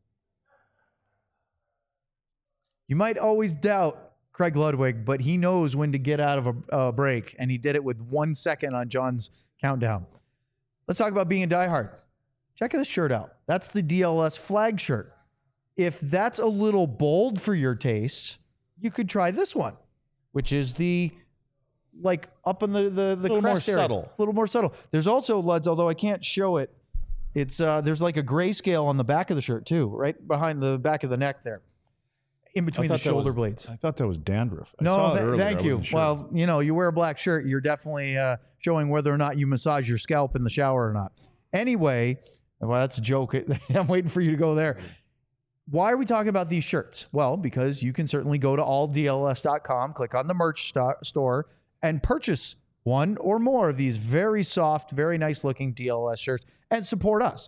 You might always doubt Craig Ludwig, but he knows when to get out of a, a break, and he did it with one second on John's countdown. Let's talk about being a Die Hard. Check this shirt out. That's the D L S flag shirt. If that's a little bold for your taste, you could try this one, which is the like up in the the, the Little more crest area. subtle. A little more subtle. There's also, Luds, although I can't show it, it's uh there's like a grayscale on the back of the shirt too, right behind the back of the neck there, in between the thought that shoulder was- blades. I thought that was dandruff. I No, saw it th- earlier. thank I you. wasn't sure. Well, you know, you wear a black shirt, you're definitely uh, showing whether or not you massage your scalp in the shower or not. Anyway, well, that's a joke. I'm waiting for you to go there. Why are we talking about these shirts? Well, because you can certainly go to all D L S dot com, click on the merch sto- store, and purchase one or more of these very soft, very nice looking D L S shirts and support us.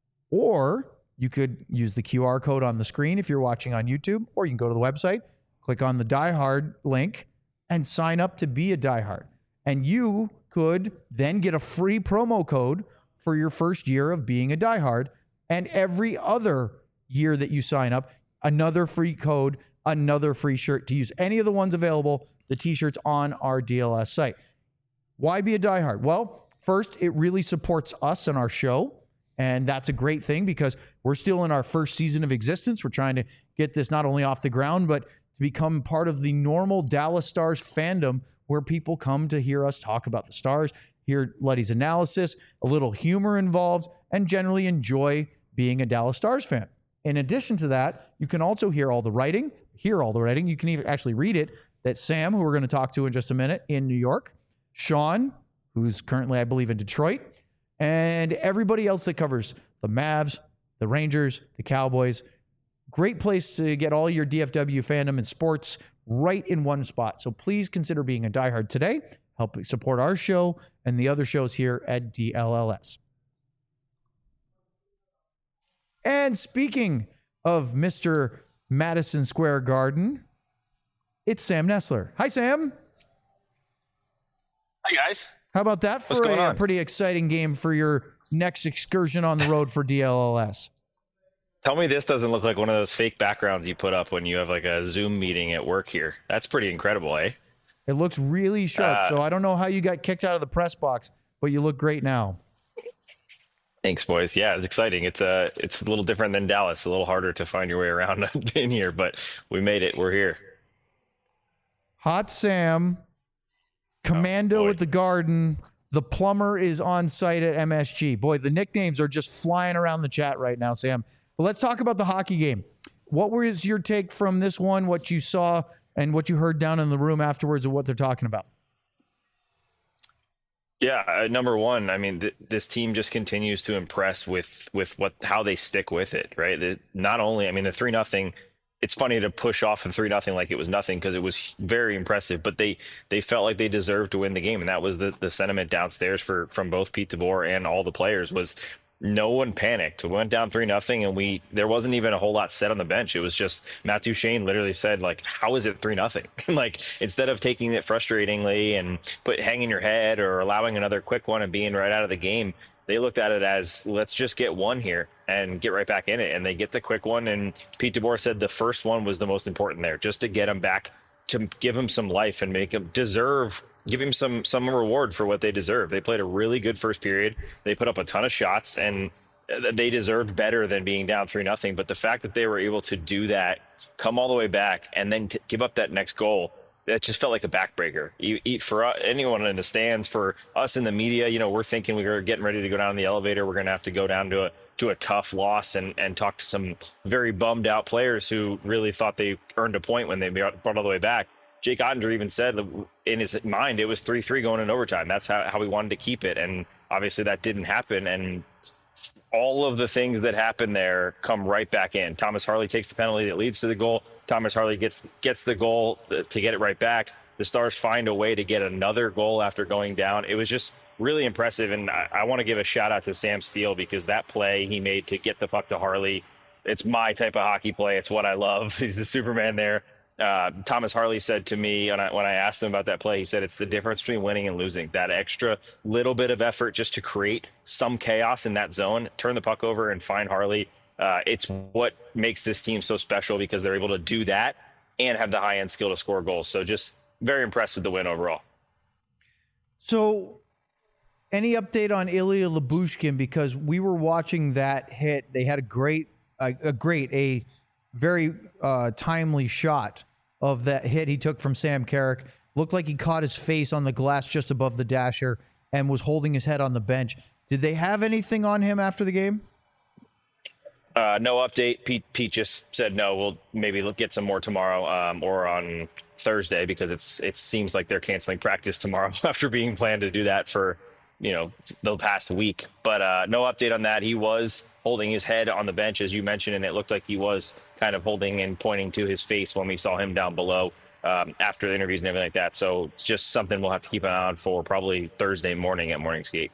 Or you could use the Q R code on the screen if you're watching on YouTube, or you can go to the website, click on the Die Hard link, and sign up to be a Die Hard. And you could then get a free promo code for your first year of being a Die Hard. And every other year that you sign up, another free code, another free shirt to use. Any of the ones available, the t-shirts on our D L S site. Why be a Die Hard? Well, first, it really supports us and our show. And that's a great thing because we're still in our first season of existence. We're trying to get this not only off the ground, but to become part of the normal Dallas Stars fandom where people come to hear us talk about the Stars, hear Letty's analysis, a little humor involved, and generally enjoy being a Dallas Stars fan. In addition to that, you can also hear all the writing, hear all the writing. You can even actually read it that Sam, who we're going to talk to in just a minute in New York, Sean, who's currently, I believe, in Detroit, and everybody else that covers the Mavs, the Rangers, the Cowboys. Great place to get all your D F W fandom and sports right in one spot. So please consider being a diehard today. Help support our show and the other shows here at D L L S. And speaking of Mister Madison Square Garden, it's Sam Nessler. Hi, Sam. Hi, guys. How about that What's for going a, a on? pretty exciting game for your next excursion on the road for D L L S? Tell me this doesn't look like one of those fake backgrounds you put up when you have like a Zoom meeting at work here. That's pretty incredible, eh? It looks really sharp. Uh, so I don't know how you got kicked out of the press box, but you look great now. Thanks, boys. Yeah, it's exciting. It's a, it's a little different than Dallas. A little harder to find your way around in here, but we made it. We're here. Hot Sam, Commando boy. at the Garden. The plumber is on site at M S G. Boy, the nicknames are just flying around the chat right now, Sam. But let's talk about the hockey game. What was your take from this one, what you saw and what you heard down in the room afterwards of what they're talking about? Yeah, uh, number one, I mean, th- this team just continues to impress with with what how they stick with it, right? It, not only, I mean, the three nothing. It's funny to push off of three nothing like it was nothing because it was very impressive, but they they felt like they deserved to win the game, and that was the the sentiment downstairs for from both Pete DeBoer and all the players was. No one panicked. We went down three nothing, and we there wasn't even a whole lot said on the bench. It was just Matt Duchene literally said, like, how is it three nothing? Like, instead of taking it frustratingly and put hanging your head or allowing another quick one and being right out of the game, they looked at it as, let's just get one here and get right back in it. And they get the quick one. And Pete DeBoer said the first one was the most important there, just to get them back, to give them some life and make them deserve, give him some some reward for what they deserve. They played a really good first period. They put up a ton of shots, and they deserved better than being down three nothing. But the fact that they were able to do that, come all the way back, and then t- give up that next goal, that just felt like a backbreaker. You eat for uh, anyone in the stands, for us in the media, you know, we're thinking we were getting ready to go down the elevator. We're going to have to go down to a to a tough loss and and talk to some very bummed out players who really thought they earned a point when they brought all the way back. Jake Ottinger even said in his mind it was three three going in overtime. That's how, how we wanted to keep it. And obviously that didn't happen. And all of the things that happened there come right back in. Thomas Harley takes the penalty that leads to the goal. Thomas Harley gets gets the goal to get it right back. The Stars find a way to get another goal after going down. It was just really impressive. And I, I want to give a shout out to Sam Steele, because that play he made to get the puck to Harley, it's my type of hockey play. It's what I love. He's the Superman there. Uh, Thomas Harley said to me when I, when I asked him about that play, he said it's the difference between winning and losing. That extra little bit of effort just to create some chaos in that zone, turn the puck over and find Harley. Uh, it's what makes this team so special, because they're able to do that and have the high end skill to score goals. So just very impressed with the win overall. So any update on Ilya Lyubushkin? Because we were watching that hit. They had a great, a, a great, a very uh, timely shot of that hit he took from Sam Carrick. Looked like he caught his face on the glass just above the dasher and was holding his head on the bench. Did they have anything on him after the game? Uh, no update. Pete Pete just said no. We'll maybe look, get some more tomorrow um, or on Thursday, because it's it seems like they're canceling practice tomorrow after being planned to do that for you know the past week. But uh, no update on that. He was holding his head on the bench, as you mentioned, and it looked like he was kind of holding and pointing to his face when we saw him down below um, after the interviews and everything like that. So it's just something we'll have to keep an eye on for probably Thursday morning at Morning Skate.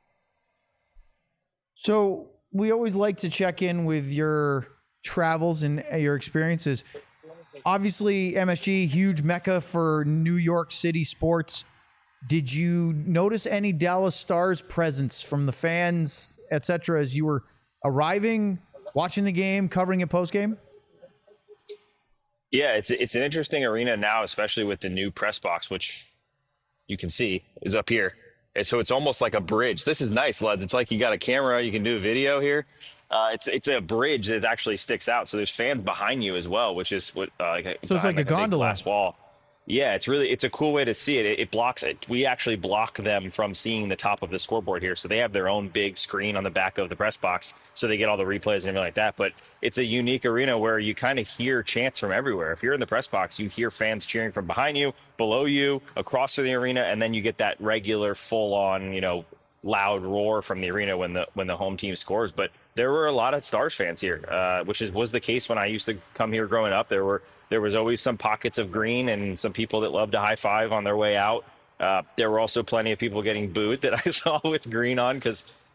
So we always like to check in with your travels and your experiences. Obviously, M S G, huge mecca for New York City sports. Did you notice any Dallas Stars presence from the fans, et cetera, as you were arriving, watching the game, covering it post-game? Yeah, it's it's an interesting arena now, especially with the new press box, which you can see is up here. And so it's almost like a bridge. This is nice, lads. It's like you got a camera, you can do a video here. Uh, it's it's a bridge that actually sticks out. So there's fans behind you as well, which is what uh, like so it's like a big gondola glass wall. Yeah, it's really it's a cool way to see it. it. It blocks it. We actually block them from seeing the top of the scoreboard here. So they have their own big screen on the back of the press box, so they get all the replays and everything like that. But it's a unique arena where you kind of hear chants from everywhere. If you're in the press box, you hear fans cheering from behind you, below you, across the arena, and then you get that regular, full-on, you know, loud roar from the arena when the when the home team scores. But there were a lot of Stars fans here, uh, which is was the case when I used to come here growing up. There were there was always some pockets of green and some people that loved to high five on their way out. Uh, there were also plenty of people getting booed that I saw with green on, because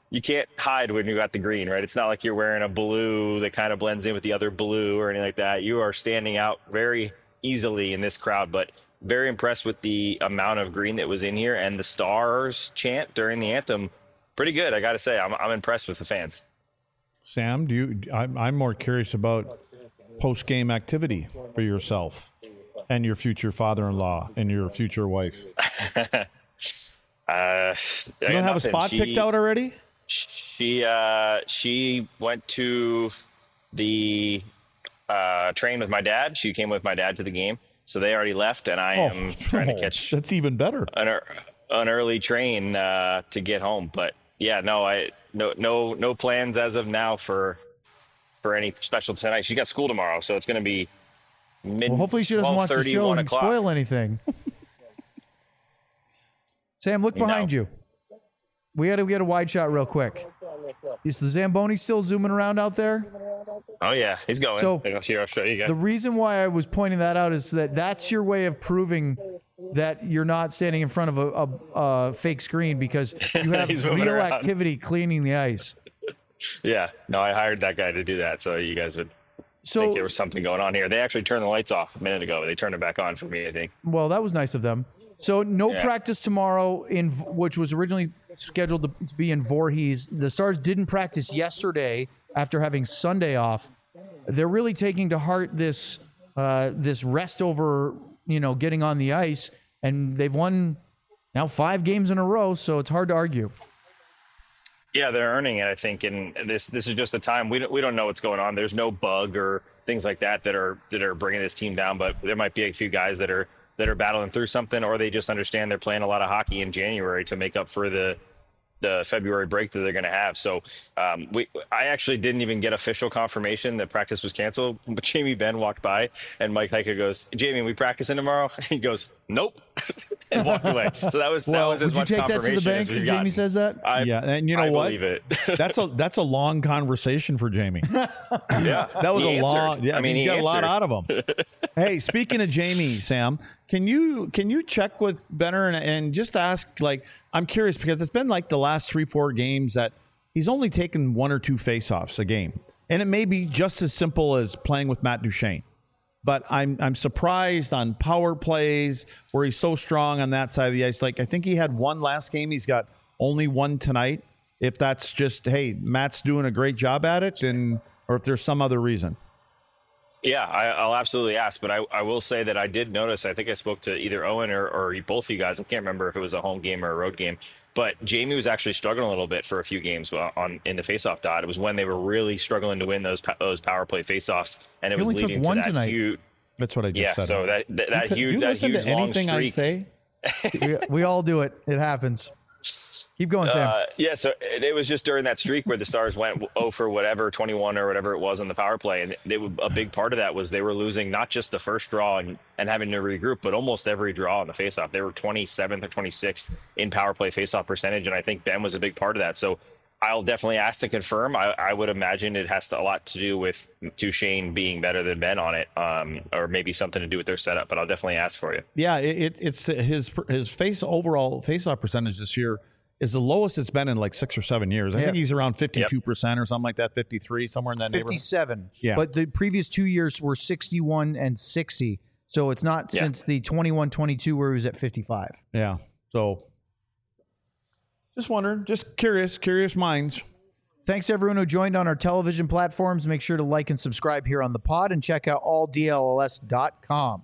you can't hide when you got the green, right? It's not like you're wearing a blue that kind of blends in with the other blue or anything like that. You are standing out very easily in this crowd, but very impressed with the amount of green that was in here, and the Stars chant during the anthem. Pretty good, I got to say. I'm I'm impressed with the fans. Sam, do you? I'm, I'm more curious about post-game activity for yourself and your future father-in-law and your future wife. uh, I You don't have nothing. a spot she, picked out already? She uh, she went to the uh, train with my dad. She came with my dad to the game, so they already left, and I am trying to catch That's even better. an, an early train uh, to get home. But yeah, no, I no no no plans as of now for for any special tonight. She got school tomorrow, so it's going to be mid. Well, hopefully she doesn't watch the show and o'clock. spoil anything. Sam, look behind No. you. We had to get a wide shot real quick. Is the Zamboni still zooming around out there? Oh yeah, he's going. So, Here, I'll show you guys. The reason why I was pointing that out is that that's your way of proving that you're not standing in front of a, a, a fake screen, because you have He's moving real around. activity cleaning the ice. Yeah, no, I hired that guy to do that, so you guys would So, think there was something going on here. They actually turned the lights off a minute ago. They turned it back on for me, I think. well, that was nice of them. So no Yeah. practice tomorrow, in which was originally scheduled to, to be in Voorhees. The Stars didn't practice yesterday after having Sunday off. They're really taking to heart this uh, this rest over, you know, getting on the ice, and they've won now five games in a row, so it's hard to argue. Yeah, they're earning it, I think, and this this is just the time. We don't we don't know what's going on. There's no bug or things like that that are that are bringing this team down, but there might be a few guys that are that are battling through something, or they just understand they're playing a lot of hockey in January to make up for the the February break that they're going to have. So um, we, I actually didn't even get official confirmation that practice was canceled. But Jamie Benn walked by, and Mike Heika goes, "Jamie, we practicing tomorrow?" And he goes, "Nope," and walked away. So that was Well, that was as Would you much take that to the confirmation bank as if we've Jamie gotten. says that? I, Yeah, and you know I what? believe it. That's a that's a long conversation for Jamie. Yeah, That was he a answered. long. Yeah, I mean, you he got a lot answered. out of him. Hey, speaking of Jamie, Sam, can you can you check with Benner and, and just ask? Like, I'm curious because it's been like the last three four games that he's only taken one or two faceoffs a game, and it may be just as simple as playing with Matt Duchene. But I'm I'm surprised on power plays where he's so strong on that side of the ice. Like, I think he had one last game. He's got only one tonight. If that's just, hey, Matt's doing a great job at it, and or if there's some other reason. Yeah, I, I'll absolutely ask, but I, I will say that I did notice, I think I spoke to either Owen or, or both of you guys. I can't remember if it was a home game or a road game, but Jamie was actually struggling a little bit for a few games on in the faceoff dot. It was when they were really struggling to win those those power play faceoffs, and it He was only took leading one to that tonight. huge. That's what I just Yeah, said. so that that, that you, huge you that listen huge to long anything I streak. say? we, we all do it. It happens. Keep going, Sam. Uh, yeah, so it, it was just during that streak where the Stars went oh for whatever, twenty-one or whatever it was on the power play. And they, were- a big part of that was they were losing not just the first draw and, and having to regroup, but almost every draw on the faceoff. They were twenty-seventh or twenty-sixth in power play faceoff percentage, and I think Ben was a big part of that. So I'll definitely ask to confirm. I, I would imagine it has to, a lot to do with Duchene being better than Ben on it, um, or maybe something to do with their setup, but I'll definitely ask for you. Yeah, it, it, it's his his face overall faceoff percentage this year is the lowest it's been in like six or seven years. I Yeah. think he's around fifty-two percent or something like that, fifty-three, somewhere in that neighborhood. fifty-seven. Yeah. But the previous two years were sixty-one and sixty. So it's not Yeah. since the twenty-one twenty-two where he was at fifty-five. Yeah. So just wondering, just curious, curious minds. Thanks to everyone who joined on our television platforms. Make sure to like and subscribe here on the pod and check out all D L L S dot com.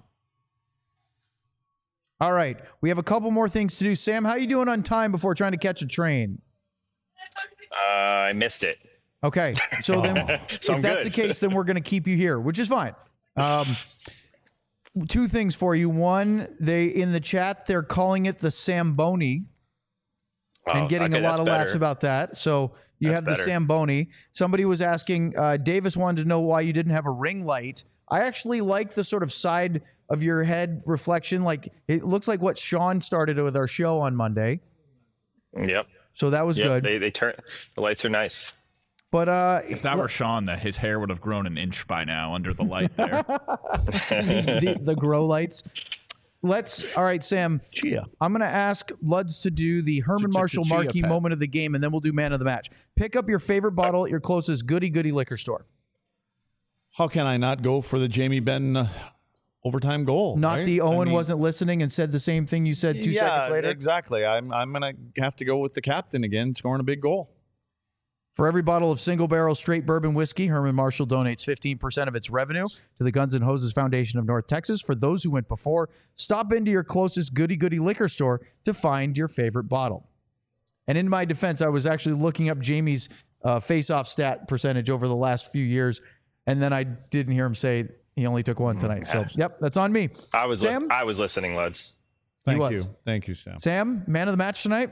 All right. We have a couple more things to do. Sam, how you doing on time before trying to catch a train? Uh, I missed it. Okay. So then So if I'm that's good. the case, then we're going to keep you here, which is fine. Um, two things for you. One, they in the chat, they're calling it the Samboni. and Oh, getting okay, a lot that's of laughs better. about that. So you That's have the better. Samboni. Somebody was asking, uh, Davis wanted to know why you didn't have a ring light. I actually like the sort of side of your head reflection. Like it looks like what Sean started with our show on Monday. Yep. So that was Yep. good. They they turn the lights are nice. But uh, If that were Sean, that his hair would have grown an inch by now under the light there. the, the, the grow lights. let's. All right, Sam. Chia. I'm going to ask Luds to do the Herman Marshall Ch-ch-ch-chia marquee pet. moment of the game, and then we'll do man of the match. Pick up your favorite bottle at your closest goody goody liquor store. How can I not go for the Jamie Benn uh, overtime goal? Not right? the I Owen mean, wasn't listening and said the same thing you said two yeah, seconds later. Exactly. I'm I'm gonna have to go with the captain again, scoring a big goal. For every bottle of single barrel straight bourbon whiskey, Herman Marshall donates fifteen percent of its revenue to the Guns N' Hoses Foundation of North Texas. For those who went before, stop into your closest goody goody liquor store to find your favorite bottle. And in my defense, I was actually looking up Jamie's uh, face-off stat percentage over the last few years, and then I didn't hear him say he only took one tonight. So, yep, that's on me. I was li- Sam? I was listening, Luds. Thank was. you. Thank you, Sam. Sam, man of the match tonight?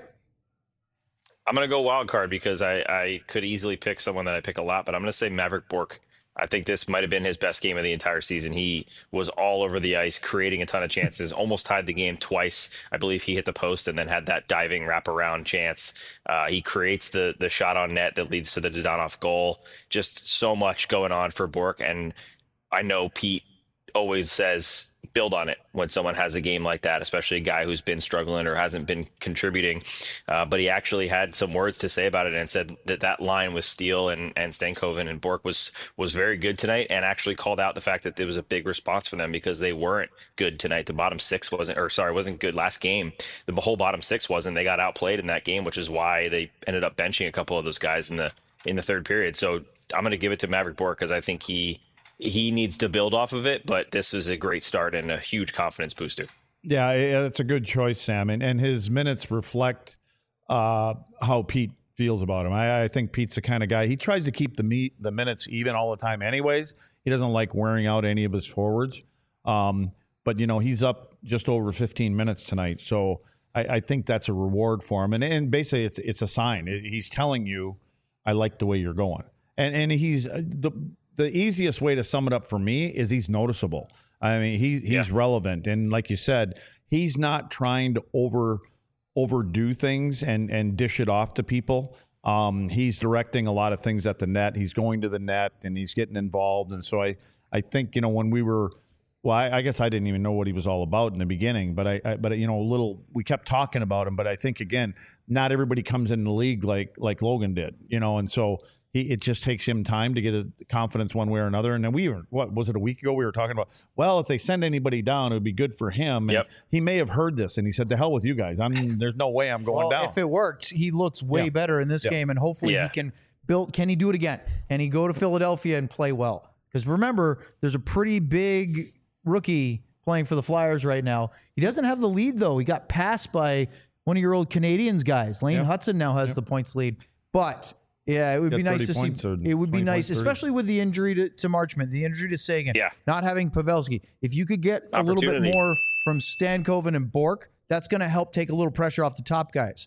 I'm gonna go wild card because I, I could easily pick someone that I pick a lot, but I'm gonna say Maverick Bork. I think this might have been his best game of the entire season. He was all over the ice, creating a ton of chances, almost tied the game twice. I believe he hit the post and then had that diving wraparound chance. Uh, he creates the the shot on net that leads to the Dodonov goal. Just so much going on for Bork, and I know Pete always says build on it when someone has a game like that, especially a guy who's been struggling or hasn't been contributing. Uh, but he actually had some words to say about it and said that that line with Steele and, and Stankoven and Bork was was very good tonight, and actually called out the fact that there was a big response for them because they weren't good tonight. The bottom six wasn't, or sorry, wasn't good last game. The whole bottom six wasn't. They got outplayed in that game, which is why they ended up benching a couple of those guys in the in the third period. So I'm going to give it to Maverick Bork because I think he he needs to build off of it, but this is a great start and a huge confidence booster. Yeah, it's a good choice, Sam, and and his minutes reflect uh, how Pete feels about him. I, I think Pete's the kind of guy, he tries to keep the meet the minutes even all the time. Anyways, he doesn't like wearing out any of his forwards. Um, but you know, he's up just over fifteen minutes tonight, so I, I think that's a reward for him. And and basically, it's it's a sign. He's telling you, I like the way you're going, and and he's the. The easiest way to sum it up for me is he's noticeable. I mean, he he's yeah. relevant, and like you said, he's not trying to over overdo things and and dish it off to people. Um, he's directing a lot of things at the net. He's going to the net and he's getting involved. And so I I think you know when we were, well, I, I guess I didn't even know what he was all about in the beginning, but I, I but you know a little we kept talking about him. But I think again, not everybody comes in the league like like Logan did, you know, and so. He, it just takes him time to get his confidence one way or another. And then we were, what was it, a week ago? We were talking about, well, if they send anybody down, it would be good for him. And yep. he may have heard this and he said, to hell with you guys. I'm there's no way I'm going well, down. If it worked, he looks way Yeah. better in this Yeah. game, and hopefully Yeah. he can build. Can he do it again? Can he go to Philadelphia and play well? Because remember, there's a pretty big rookie playing for the Flyers right now. He doesn't have the lead, though. He got passed by one of your old Canadians guys. Lane Yeah. Hudson now has Yeah. the points lead. But yeah, it would Got be nice thirty to see. points or It would be twenty nice, points, thirty. especially with the injury to, to Marchment, the injury to Sagan, Yeah. not having Pavelski. If you could get a little bit Opportunity. more from Stankoven and Bork, that's going to help take a little pressure off the top guys.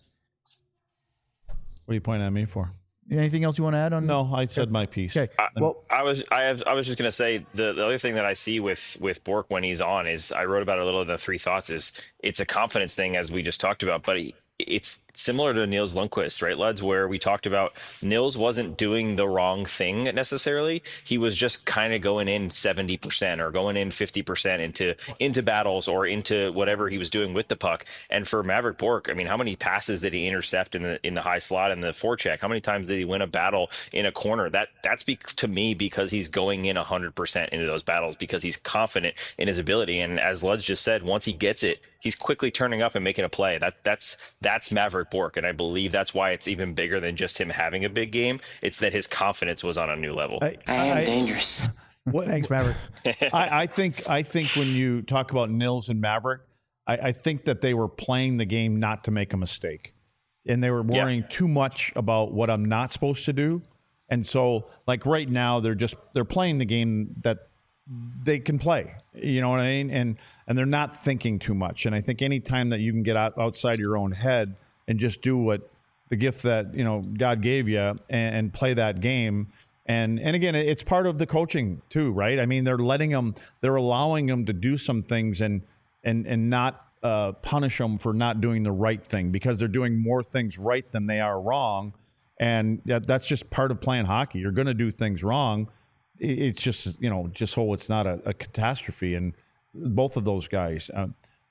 What are you pointing at me for? Anything else you want to add on? No, I said my piece. Okay. I, Well, I was I have I was just gonna say the, the other thing that I see with with Bork when he's on is I wrote about it a little in the three thoughts is it's a confidence thing as we just talked about, but he, it's similar to Nils Lundqvist, right, Luds, where we talked about Nils wasn't doing the wrong thing necessarily. He was just kind of going in seventy percent or going in fifty percent into into battles or into whatever he was doing with the puck. And for Maverick Bork, I mean, how many passes did he intercept in the in the high slot and the forecheck? How many times did he win a battle in a corner? That that's be, to me because he's going in one hundred percent into those battles because he's confident in his ability. And as Luds just said, once he gets it, he's quickly turning up and making a play. That that's that's Maverick Bork, and I believe that's why it's even bigger than just him having a big game. It's that his confidence was on a new level. I, I am dangerous. What, thanks, Maverick. I, I think I think when you talk about Nils and Maverick, I, I think that they were playing the game not to make a mistake, and they were worrying Yeah. too much about what I'm not supposed to do. And so, like right now, they're just they're playing the game that they can play. You know what I mean? And and they're not thinking too much. And I think any time that you can get out, outside your own head and just do what the gift that you know God gave you and, and play that game. And and again, it's part of the coaching too, right? I mean, they're letting them, they're allowing them to do some things and and and not uh, punish them for not doing the right thing because they're doing more things right than they are wrong. And that, that's just part of playing hockey. You're going to do things wrong. It's just, you know, just so it's not a, a catastrophe. And both of those guys, uh,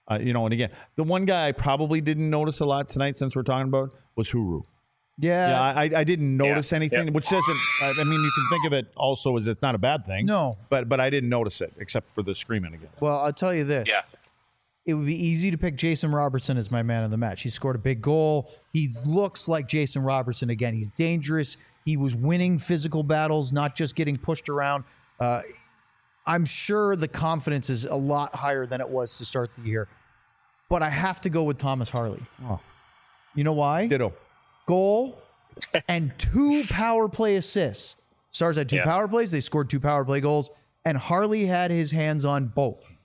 Uh, you know, and again, the one guy I probably didn't notice a lot tonight, since we're talking about, was Huru. Yeah. Yeah, I, I didn't notice Yeah. anything, Yeah. which doesn't. I I mean, you can think of it also as it's not a bad thing. No. but but I didn't notice it except for the screaming again. Well, I'll tell you this. Yeah. It would be easy to pick Jason Robertson as my man of the match. He scored a big goal. He looks like Jason Robertson again. He's dangerous. He was winning physical battles, not just getting pushed around. Uh, I'm sure the confidence is a lot higher than it was to start the year. But I have to go with Thomas Harley. Oh. You know why? Ditto. Goal and two power play assists. Stars had two Yeah. power plays. They scored two power play goals. And Harley had his hands on both.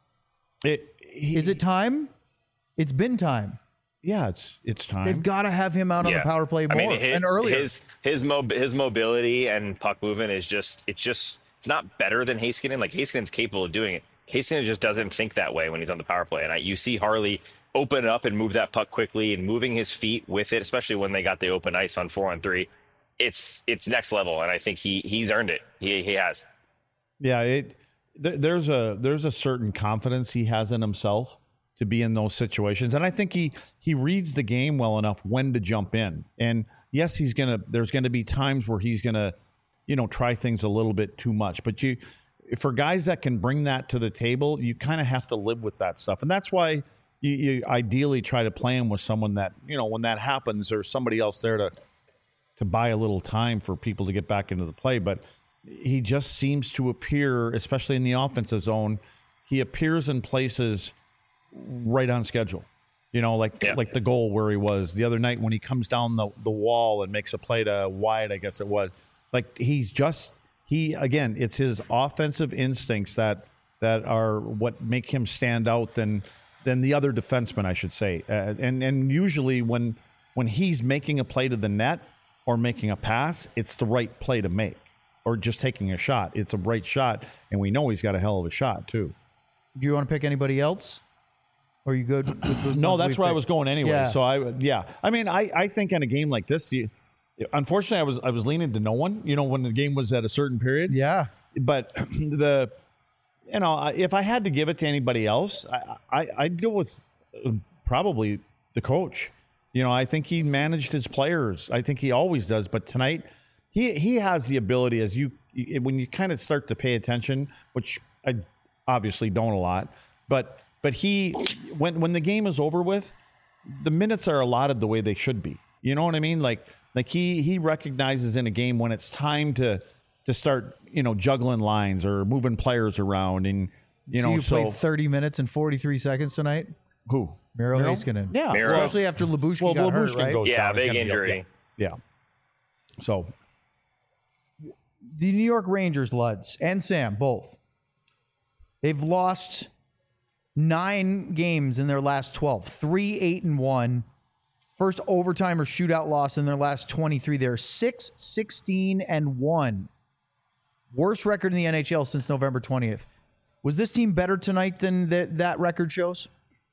It he, Is it time? It's been time. Yeah, it's it's time. They've got to have him out on the power play more I mean, his, and earlier. His his mob his mobility and puck movement is just it's just it's not better than Heiskanen. Like Heiskanen's capable of doing it. Heiskanen just doesn't think that way when he's on the power play. And I, you see Harley open up and move that puck quickly and moving his feet with it, especially when they got the open ice on four on three. It's it's next level, and I think he he's earned it. He he has. Yeah, it there, there's a there's a certain confidence he has in himself to be in those situations, and I think he he reads the game well enough when to jump in. And yes, he's gonna. There's gonna be times where he's gonna, you know, try things a little bit too much. But you, for guys that can bring that to the table, you kind of have to live with that stuff, and that's why you, you ideally try to play him with someone that, you know, when that happens, there's somebody else there to to buy a little time for people to get back into the play. But he just seems to appear, especially in the offensive zone, he appears in places right on schedule. You know, like Yeah. like the goal where he was the other night when he comes down the, the wall and makes a play to wide, I guess it was. Like he's just he again, it's his offensive instincts that that are what make him stand out than than the other defensemen, I should say. Uh, and and usually when when he's making a play to the net or making a pass, it's the right play to make. Or just taking a shot. It's a right shot, and we know he's got a hell of a shot too. Do you want to pick anybody else? Or are you good with the No, ones that's we've where I picked? was going anyway. Yeah. So I, yeah, I mean, I, I think in a game like this, you, unfortunately, I was I was leaning to no one. You know, when the game was at a certain period. Yeah. But the, you know, I- if I had to give it to anybody else, I, I I'd go with uh, probably the coach. You know, I think he managed his players. I think he always does. But tonight, he he has the ability, as you when you kind of start to pay attention, which I obviously don't a lot, but but he when when the game is over with, the minutes are allotted the way they should be. You know what I mean? Like like he he recognizes in a game when it's time to to start, you know, juggling lines or moving players around, and you so know you so played thirty minutes and forty-three seconds tonight? who Miro Miro? Heiskanen. Yeah, Miro. Especially after Lyubushkin well, got hurt, Lyubushkin right? goes Yeah, down. It's big gonna be up- injury. Yeah. yeah. So The New York Rangers, Luds, and Sam, both. They've lost nine games in their last twelve. Three, eight, and one. First overtime or shootout loss in their last twenty-three. They're six, sixteen, and one. Worst record in the N H L since November twentieth. Was this team better tonight than that that record shows?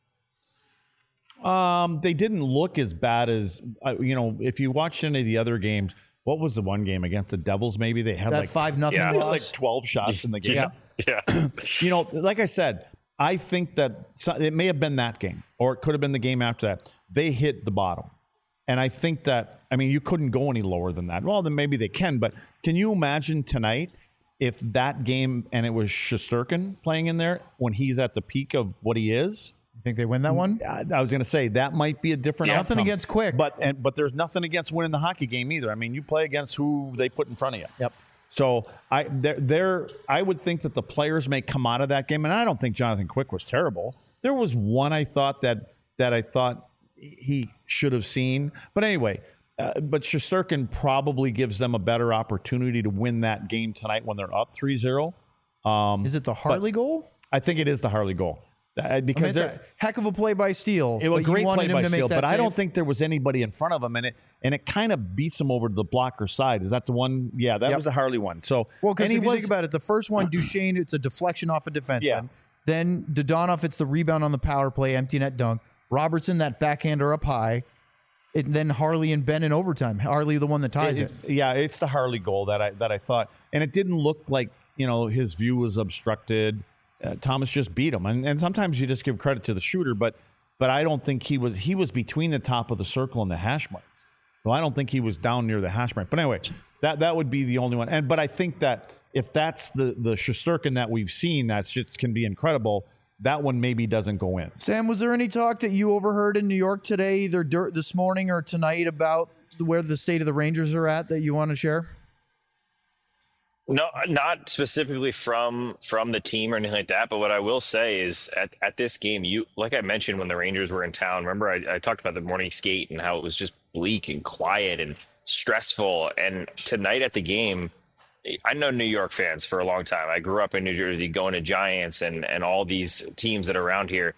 Um, they didn't look as bad as uh, you know. If you watched any of the other games, what was the one game against the Devils? Maybe they had That like five nothing Yeah. they had loss. like twelve shots in the game. Yeah. Yeah. You know, like I said, I think that so- it may have been that game, or it could have been the game after that. They hit the bottom, and I think that I mean you couldn't go any lower than that. Well, then maybe they can, but can you imagine tonight if that game and it was Shesterkin playing in there when he's at the peak of what he is? You think they win that one? I, I was going to say that might be a different Yeah. Nothing outcome. against Quick. but and but there's nothing against winning the hockey game either. I mean, you play against who they put in front of you. Yep. So I there there I would think that the players may come out of that game, and I don't think Jonathan Quick was terrible. There was one I thought that that I thought he should have seen, but anyway. Uh, but Shesterkin probably gives them a better opportunity to win that game tonight when they're up three zero. Um, Is it the Harley goal? I think it is the Harley goal. Uh, I mean, because it's they're- a heck of a play by Steele. it was a but you great wanted play him by to make Steele, that but I don't save? think there was anybody in front of him, and it and it kind of beats him over to the blocker side. Is that the one? Yeah, that Yep. was the Harley one. So Well, because and if he you was, think about it, the first one, Duchesne, it's a deflection off a defenseman. Yeah. Then Dodonov, it's the rebound on the power play, empty net dunk. Robertson, that backhander up high. And then Harley and Ben in overtime. Harley, the one that ties it. it- yeah, it's the Harley goal that I that I thought, and it didn't look like you know his view was obstructed. uh, Thomas just beat him. And, and sometimes you just give credit to the shooter, but but I don't think he was he was between the top of the circle and the hash marks. So I don't think he was down near the hash mark. But anyway, that that would be the only one. And but I think that if that's the the Shesterkin that we've seen, that's just can be incredible. That one maybe doesn't go in. Sam, was there any talk that you overheard in New York today, either dur- this morning or tonight, about where the state of the Rangers are at that you want to share? No, not specifically from from the team or anything like that. But what I will say is at, at this game, you like I mentioned when the Rangers were in town, remember I, I talked about the morning skate and how it was just bleak and quiet and stressful. And tonight at the game, I know New York fans for a long time. I grew up in New Jersey going to Giants and, and all these teams that are around here.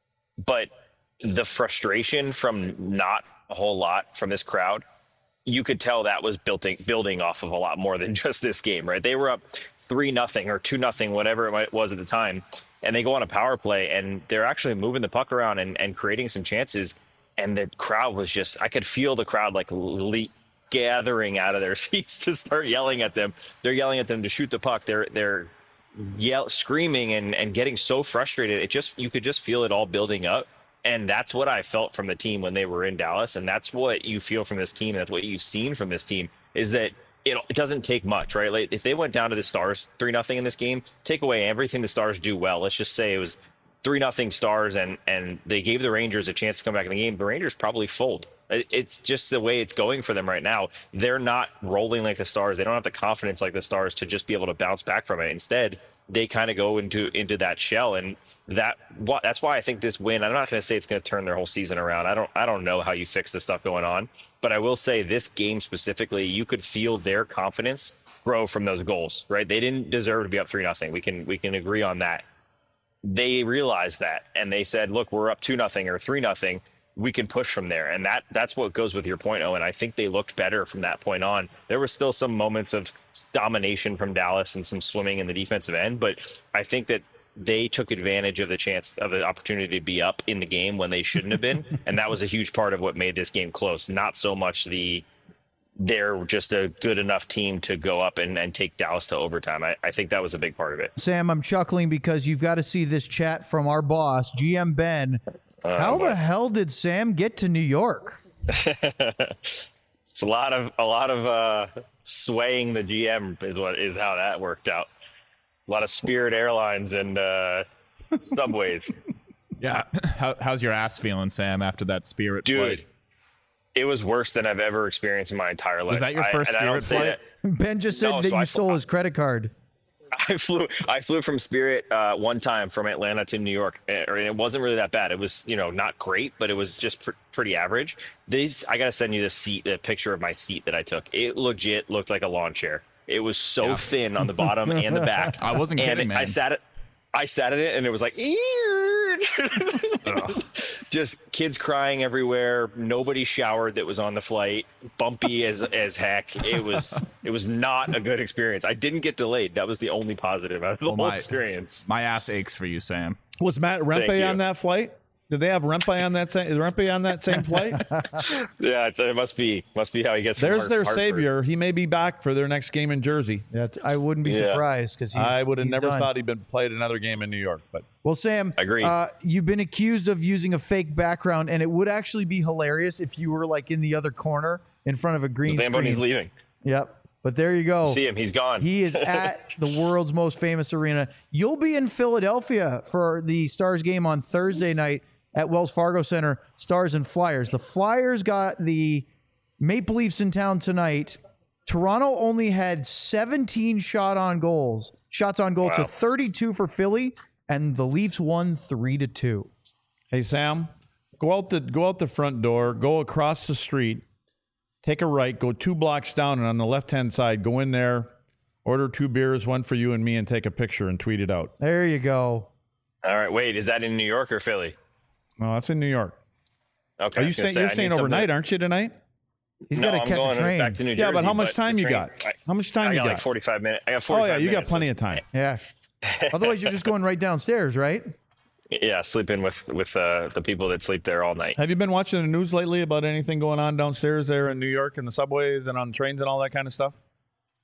But the frustration from not a whole lot from this crowd, you could tell that was building building off of a lot more than just this game, right? They were up three nothing or two nothing, whatever it was at the time, and they go on a power play and they're actually moving the puck around and, and creating some chances. And the crowd was just, I could feel the crowd like le- gathering out of their seats to start yelling at them. They're yelling at them to shoot the puck. They're they're yell screaming and, and getting so frustrated. It just you could just feel it all building up. And that's what I felt from the team when they were in Dallas. And that's what you feel from this team. And that's what you've seen from this team is that it, it doesn't take much, right? Like if they went down to the Stars three nothing in this game, take away everything the Stars do well. Let's just say it was three nothing Stars and and they gave the Rangers a chance to come back in the game. The Rangers probably fold. It's just the way it's going for them right now. They're not rolling like the Stars. They don't have the confidence like the Stars to just be able to bounce back from it. Instead, they kind of go into into that shell, and that that's why I think this win. I'm not going to say it's going to turn their whole season around. I don't I don't know how you fix the stuff going on, but I will say this game specifically, you could feel their confidence grow from those goals. Right? They didn't deserve to be up three nothing. We can we can agree on that. They realized that, and they said, "Look, we're up two nothing or three nothing. We can push from there." And that that's what goes with your point, Owen. I think they looked better from that point on. There were still some moments of domination from Dallas and some swimming in the defensive end, but I think that they took advantage of the chance of the opportunity to be up in the game when they shouldn't have been. And that was a huge part of what made this game close. Not so much the they're just a good enough team to go up and, and take Dallas to overtime. I, I think that was a big part of it. Sam, I'm chuckling because you've got to see this chat from our boss, G M Ben. Uh, How the hell did Sam get to New York? It's a lot of a lot of uh, swaying the G M is what is how that worked out. A lot of Spirit Airlines and uh, subways. Yeah. How, how's your ass feeling, Sam, after that Spirit Dude, flight? It was worse than I've ever experienced in my entire life. Was that your first I, and I don't Spirit say flight? Ben just said No, that so you I- stole his credit card. I flew I flew from Spirit uh, one time from Atlanta to New York, and it wasn't really that bad. It was, you know, not great, but it was just pr- pretty average. These I got to send you the seat, the picture of my seat that I took. It legit looked like a lawn chair. It was so Yeah. thin on the bottom and the back. I wasn't and kidding, it- man. I sat it. I sat in it and it was like, just kids crying everywhere. Nobody showered that was on the flight. Bumpy as as heck. It was it was not a good experience. I didn't get delayed. That was the only positive out of the Well, whole my- experience. My ass aches for you, Sam. Was Matt Thank Rempe you. on that flight? Did they have Rempe on that same is Rempe on that same flight? Yeah, it, it must be must be how he gets. from There's Hart- their Hartford. savior. He may be back for their next game in Jersey. That's, I wouldn't be Yeah. surprised because I would have never done. thought he'd been played another game in New York, but Well, Sam, Agreed. Uh, you've been accused of using a fake background, and it would actually be hilarious if you were like in the other corner in front of a green Zamboni's screen. leaving. Yep. But there you go. See him. He's gone. He is at the world's most famous arena. You'll be in Philadelphia for the Stars game on Thursday night at Wells Fargo Center, Stars and Flyers. The Flyers got the Maple Leafs in town tonight. Toronto only had seventeen shot on goals, shots on goal to Wow. thirty-two for Philly, and the Leafs won three to two. hey Sam, go out the go out the front door, go across the street, take a right, go two blocks down, and on the left-hand side, go in there, order two beers, one for you and me, and take a picture and tweet it out. There you go. All right. Wait, is that in New York or Philly? Oh, that's in New York. Okay. Are I you was gonna staying? say, You're I need staying something- overnight, aren't you tonight? He's No, got to I'm catch going a train. back to New Jersey. Yeah, but how much the time you train- got? I, How much time I you got got? like forty-five minutes. I got Oh forty-five yeah, you got minutes. plenty of time. Yeah. Otherwise, you're just going right downstairs, right? Yeah, sleeping with with uh, the people that sleep there all night. Have you been watching the news lately about anything going on downstairs there in New York and the subways and on trains and all that kind of stuff?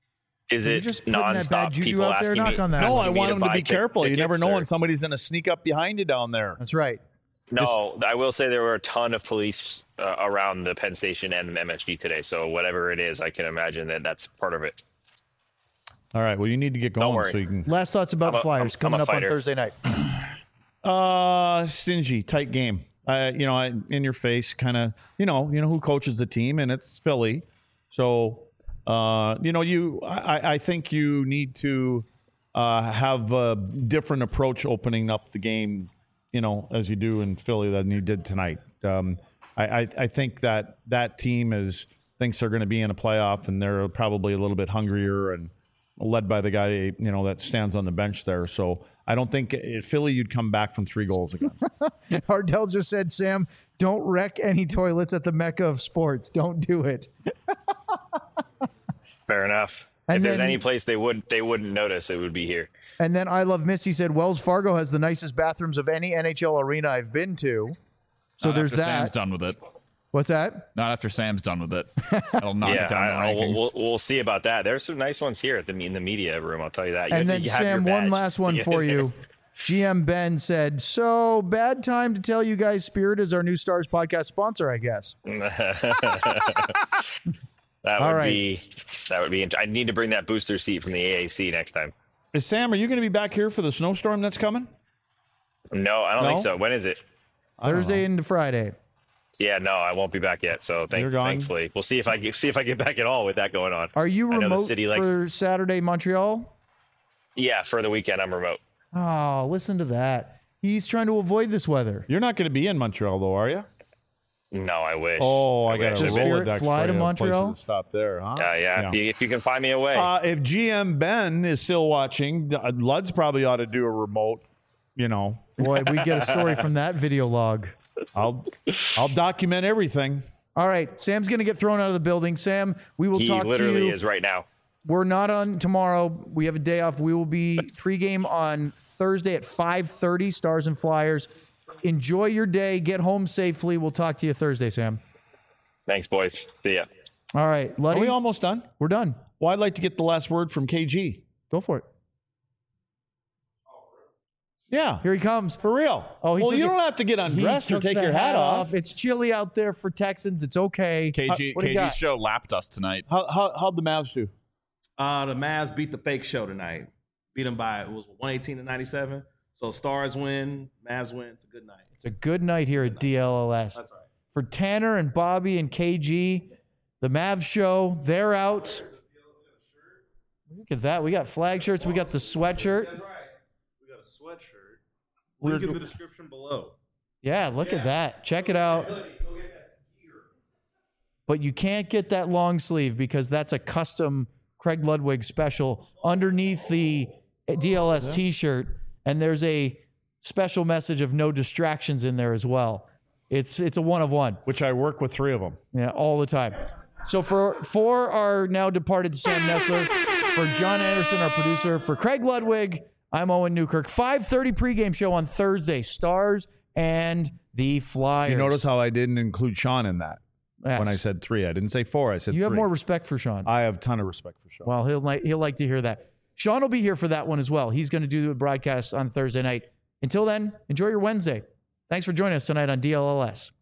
Is You're it just putting that bad nonstop? juju People out there? asking Knock me, on that. No, asking I me want them to buy be tic- careful. You never tickets, know or- when somebody's going to sneak up behind you down there. That's right. No, I will say there were a ton of police uh, around the Penn Station and M S G today. So whatever it is, I can imagine that that's part of it. All right. Well, you need to get going worry. so you can. Last thoughts about I'm a- Flyers I'm- I'm coming a up on fighter. Thursday night. Uh, stingy, tight game. Uh, you know, I, in your face, kind of. You know, you know who coaches the team, and it's Philly. So, uh, you know, you. I, I think you need to uh, have a different approach opening up the game. You know, as you do in Philly than you did tonight. Um, I, I, I think that that team is thinks they're going to be in a playoff, and they're probably a little bit hungrier and led by the guy, you know, that stands on the bench there. So I don't think uh, Philly you'd come back from three goals against. Ardell just said, Sam, don't wreck any toilets at the Mecca of sports. Don't do it. Fair enough. And if there's then- any place they would they wouldn't notice, it would be here. And then I Love Misty said, Wells Fargo has the nicest bathrooms of any N H L arena I've been to. So Not there's after that. Sam's done with it. What's that? Not after Sam's done with it. That'll knock yeah, it down I, the we'll, rankings. we'll, we'll see about that. There's some nice ones here at the in the media room. I'll tell you that. You And have then, to- you have your Sam, one badge last to one get for in there. you. G M Ben said, so bad time to tell you guys Spirit is our new Stars podcast sponsor, I guess. That All would right. be that would be. int- I need to bring that booster seat from the A A C next time. Is Sam, are you going to be back here for the snowstorm that's coming? No, I don't think No? so. When is it? Thursday into Friday. Yeah, no, I won't be back yet. So You're thank, gone? thankfully, we'll see if I get, see if I get back at all with that going on. Are you I know the remote city likes- for Saturday, Montreal? Yeah, for the weekend, I'm remote. Oh, listen to that. He's trying to avoid this weather. You're not going to be in Montreal, though, are you? No, I wish. Oh, I, got wish. a Does If it- Spirit Rolodex fly for to you, Montreal? places to stop there, huh? Yeah, yeah. If, you, if you can find me away. Uh, if G M Ben is still watching, uh, Luds probably ought to do a remote. You know, Boy, we get a story from that video log. I'll I'll document everything. All right, Sam's going to get thrown out of the building. Sam, we will he talk to literally you. is right now. We're not on tomorrow. We have a day off. We will be pregame on Thursday at five thirty, Stars and Flyers. Enjoy your day. Get home safely. We'll talk to you Thursday, Sam. Thanks, boys. See ya. All right, Are Luddy, we almost done? we're done. Well, I'd like to get the last word from K G. Go for it. Yeah, Here he comes. for real. Oh, he well, took you it- don't have to get He undressed or took take the your hat, off. It's chilly out there for Texans. It's okay. K G, what do you got? K G's show lapped us tonight. How, how how'd the Mavs do? Uh, the Mavs beat the fake show tonight. Beat them by, it was one eighteen to ninety-seven. So Stars win, Mavs win. It's a good night. It's a good night here at D L L S. That's right. For Tanner and Bobby and K G, the Mavs show, they're out. Look at that. We got flag shirts. We got the sweatshirt. That's right. We got a sweatshirt. We're- Link in the description below. Yeah, look at that. Check it out. But you can't get that long sleeve because that's a custom Craig Ludwig special underneath the D L S t-shirt. And there's a special message of no distractions in there as well. It's it's a one of one. Which I work with three of them. Yeah, all the time. So for for our now departed Sam Nessler, for John Anderson, our producer, for Craig Ludwig, I'm Owen Newkirk. five thirty pregame show on Thursday. Stars and the Flyers. You notice how I didn't include Sean in that Yes. when I said three. I didn't say four. I said you three. have more respect for Sean. I have a ton of respect for Sean. Well, he'll like he'll like to hear that. Sean will be here for that one as well. He's going to do the broadcast on Thursday night. Until then, enjoy your Wednesday. Thanks for joining us tonight on D L L S.